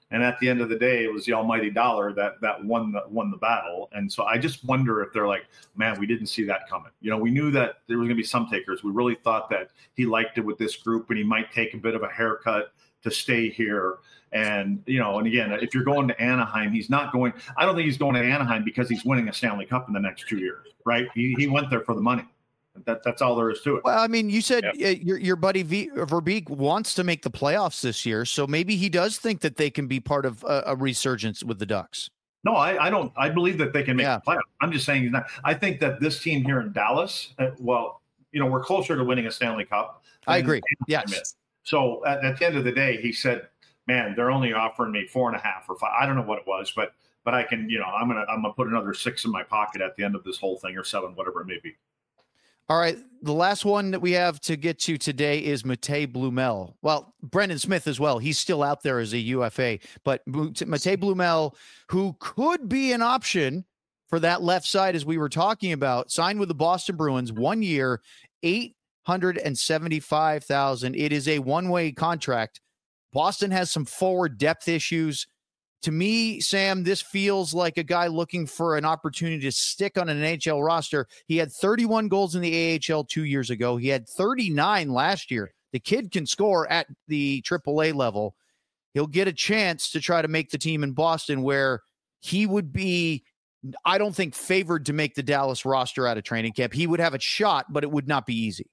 And at the end of the day, it was the almighty dollar that that won the won the battle. And so I just wonder if they're like, man, we didn't see that coming. You know, we knew that there was going to be some takers. We really thought that he liked it with this group and he might take a bit of a haircut to stay here. And, you know, and again, if you're going to Anaheim, he's not going – I don't think he's going to Anaheim because he's winning a Stanley Cup in the next two years, right? He, he went there for the money. That, that's all there is to it. Well, I mean, you said yep. uh, your your buddy v, Verbeek wants to make the playoffs this year, so maybe he does think that they can be part of a, a resurgence with the Ducks. No, I, I don't. I believe that they can make yeah. the playoffs. I'm just saying he's not. I think that this team here in Dallas, uh, well, you know, we're closer to winning a Stanley Cup. I agree. Yes. Is. So at, at the end of the day, he said, "Man, they're only offering me four and a half or five. I don't know what it was, but but I can, you know, I'm gonna I'm gonna put another six in my pocket at the end of this whole thing, or seven, whatever it may be." All right, the last one that we have to get to today is Matej Blumel. Well, Brendan Smith as well. He's still out there as a U F A, but Matej Blumel, who could be an option for that left side, as we were talking about, signed with the Boston Bruins, one year, eight hundred seventy-five thousand dollars. It is a one-way contract. Boston has some forward depth issues. To me, Sam, this feels like a guy looking for an opportunity to stick on an N H L roster. He had thirty-one goals in the A H L two years ago. He had thirty-nine last year. The kid can score at the triple A level. He'll get a chance to try to make the team in Boston, where he would be, I don't think, favored to make the Dallas roster out of training camp. He would have a shot, but it would not be easy.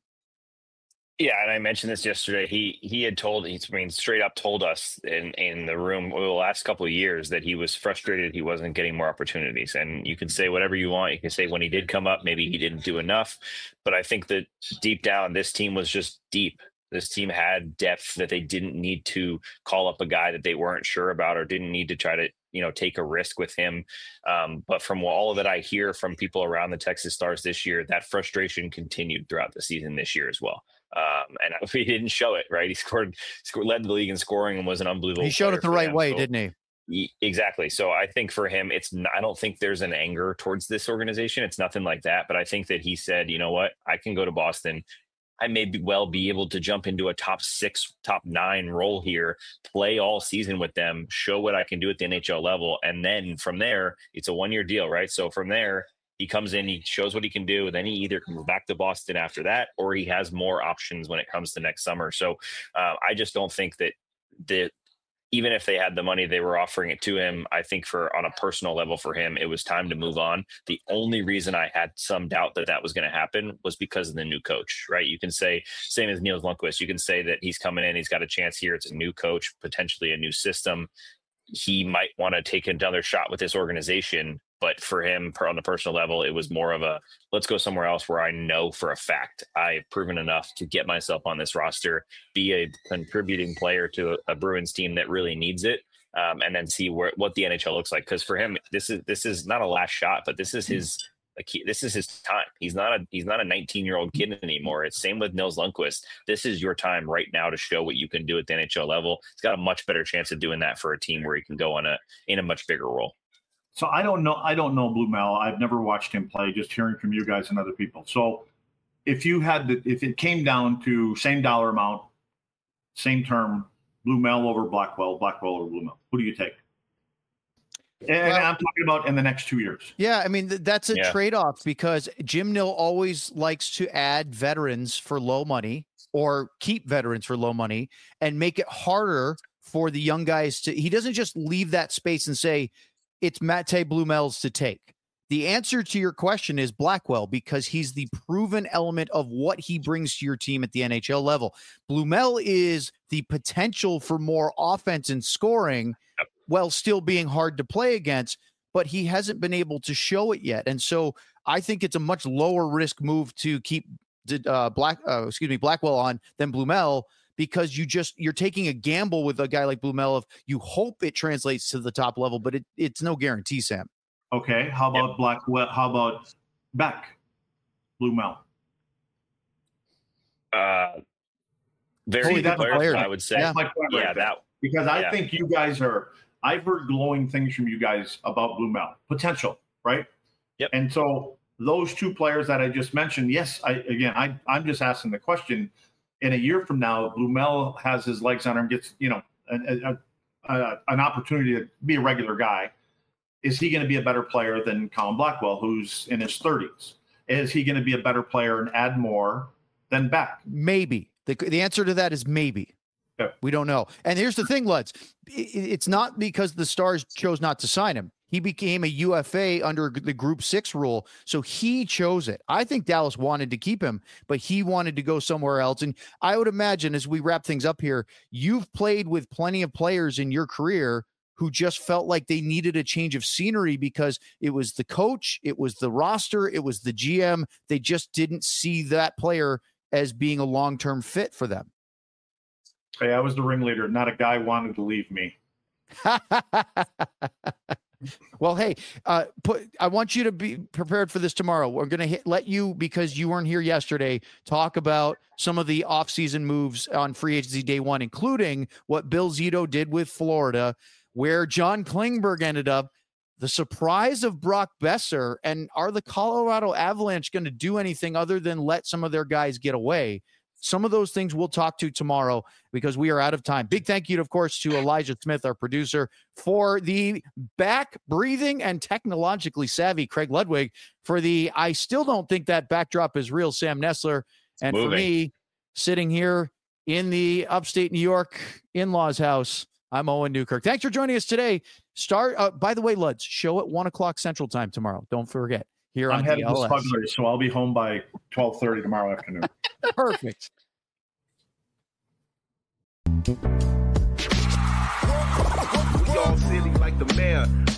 Yeah, and I mentioned this yesterday. He he had told, he's I mean, straight up told us in, in the room over the last couple of years that he was frustrated he wasn't getting more opportunities. And you can say whatever you want. You can say when he did come up, maybe he didn't do enough. But I think that deep down, this team was just deep. This team had depth that they didn't need to call up a guy that they weren't sure about or didn't need to try to, you know, take a risk with him. Um, but from all that I hear from people around the Texas Stars this year, that frustration continued throughout the season this year as well. Um, and he didn't show it, right? He scored, scored, led the league in scoring and was an unbelievable. He showed it the right them. way, so, didn't he? Exactly. So I think for him, it's not, I don't think there's an anger towards this organization. It's nothing like that. But I think that he said, you know what, I can go to Boston. I may be well be able to jump into a top six, top nine role here, play all season with them, show what I can do at the N H L level. And then from there, it's a one-year deal, right? So from there, he comes in, he shows what he can do. Then he either comes back to Boston after that, or he has more options when it comes to next summer. So uh, I just don't think that the even if they had the money, they were offering it to him. I think for on a personal level for him, it was time to move on. The only reason I had some doubt that that was going to happen was because of the new coach, right? You can say, same as Nils Lundkvist, you can say that he's coming in, he's got a chance here. It's a new coach, potentially a new system. He might want to take another shot with this organization. But for him, on the personal level, it was more of a, let's go somewhere else where I know for a fact I've proven enough to get myself on this roster, be a contributing player to a, a Bruins team that really needs it, um, and then see where, what the N H L looks like. Because for him, this is this is not a last shot, but this is his like he, this is his time. He's not a he's not a nineteen-year-old kid anymore. It's same with Nils Lundkvist. This is your time right now to show what you can do at the N H L level. He's got a much better chance of doing that for a team where he can go on a in a much bigger role. So I don't know. I don't know Blumel. I've never watched him play, just hearing from you guys and other people. So if you had to, if it came down to same dollar amount, same term, Blumel over Blackwell, Blackwell over Blumel, who do you take? And well, I'm talking about in the next two years. Yeah, I mean, th- that's a yeah. trade-off because Jim Nill always likes to add veterans for low money or keep veterans for low money and make it harder for the young guys to – he doesn't just leave that space and say – it's Matej Blumel's to take. The answer to your question is Blackwell because he's the proven element of what he brings to your team at the N H L level. Blumel is the potential for more offense and scoring while still being hard to play against, but he hasn't been able to show it yet. And so I think it's a much lower risk move to keep uh, Black, uh, excuse me, Blackwell on than Blumel, because you just you're taking a gamble with a guy like Blumel of you hope it translates to the top level, but it, it's no guarantee, Sam. Okay, how about yep. Blackwell? How about Beck, Blumel? Uh, very good player, player, I would say. Yeah, yeah right that because I yeah. think you guys are. I've heard glowing things from you guys about Blumel potential, right? Yep. And so those two players that I just mentioned, yes, I again, I I'm just asking the question. In a year from now, Blumel has his legs on him, gets, you know, a, a, uh, an opportunity to be a regular guy, is he going to be a better player than Colin Blackwell, who's in his thirties? Is he going to be a better player and add more than Beck? Maybe. The, the answer to that is maybe. Yeah. We don't know. And here's the thing, Luds. It's not because the Stars chose not to sign him. He became a U F A under the Group Six rule, so he chose it. I think Dallas wanted to keep him, but he wanted to go somewhere else. And I would imagine, as we wrap things up here, you've played with plenty of players in your career who just felt like they needed a change of scenery because it was the coach, it was the roster, it was the G M. They just didn't see that player as being a long-term fit for them. Hey, I was the ringleader. Not a guy wanted to leave me. Well, hey, uh, put, I want you to be prepared for this tomorrow. We're going to let you, because you weren't here yesterday, talk about some of the offseason moves on free agency day one, including what Bill Zito did with Florida, where John Klingberg ended up, the surprise of Brock Besser, and are the Colorado Avalanche going to do anything other than let some of their guys get away? Some of those things we'll talk to tomorrow because we are out of time. Big thank you, of course, to Elijah Smith, our producer, for the back breathing and technologically savvy Craig Ludwig, for the I still don't think that backdrop is real Sam Nessler, and Moving. for me, sitting here in the upstate New York in-laws house, I'm Owen Newkirk. Thanks for joining us today. Start, uh, by the way, Luds, show at one o'clock Central Time tomorrow. Don't forget. Here I'm on headed to D L S. Smuggler, so I'll be home by twelve thirty tomorrow afternoon. Perfect. We all silly like the mayor.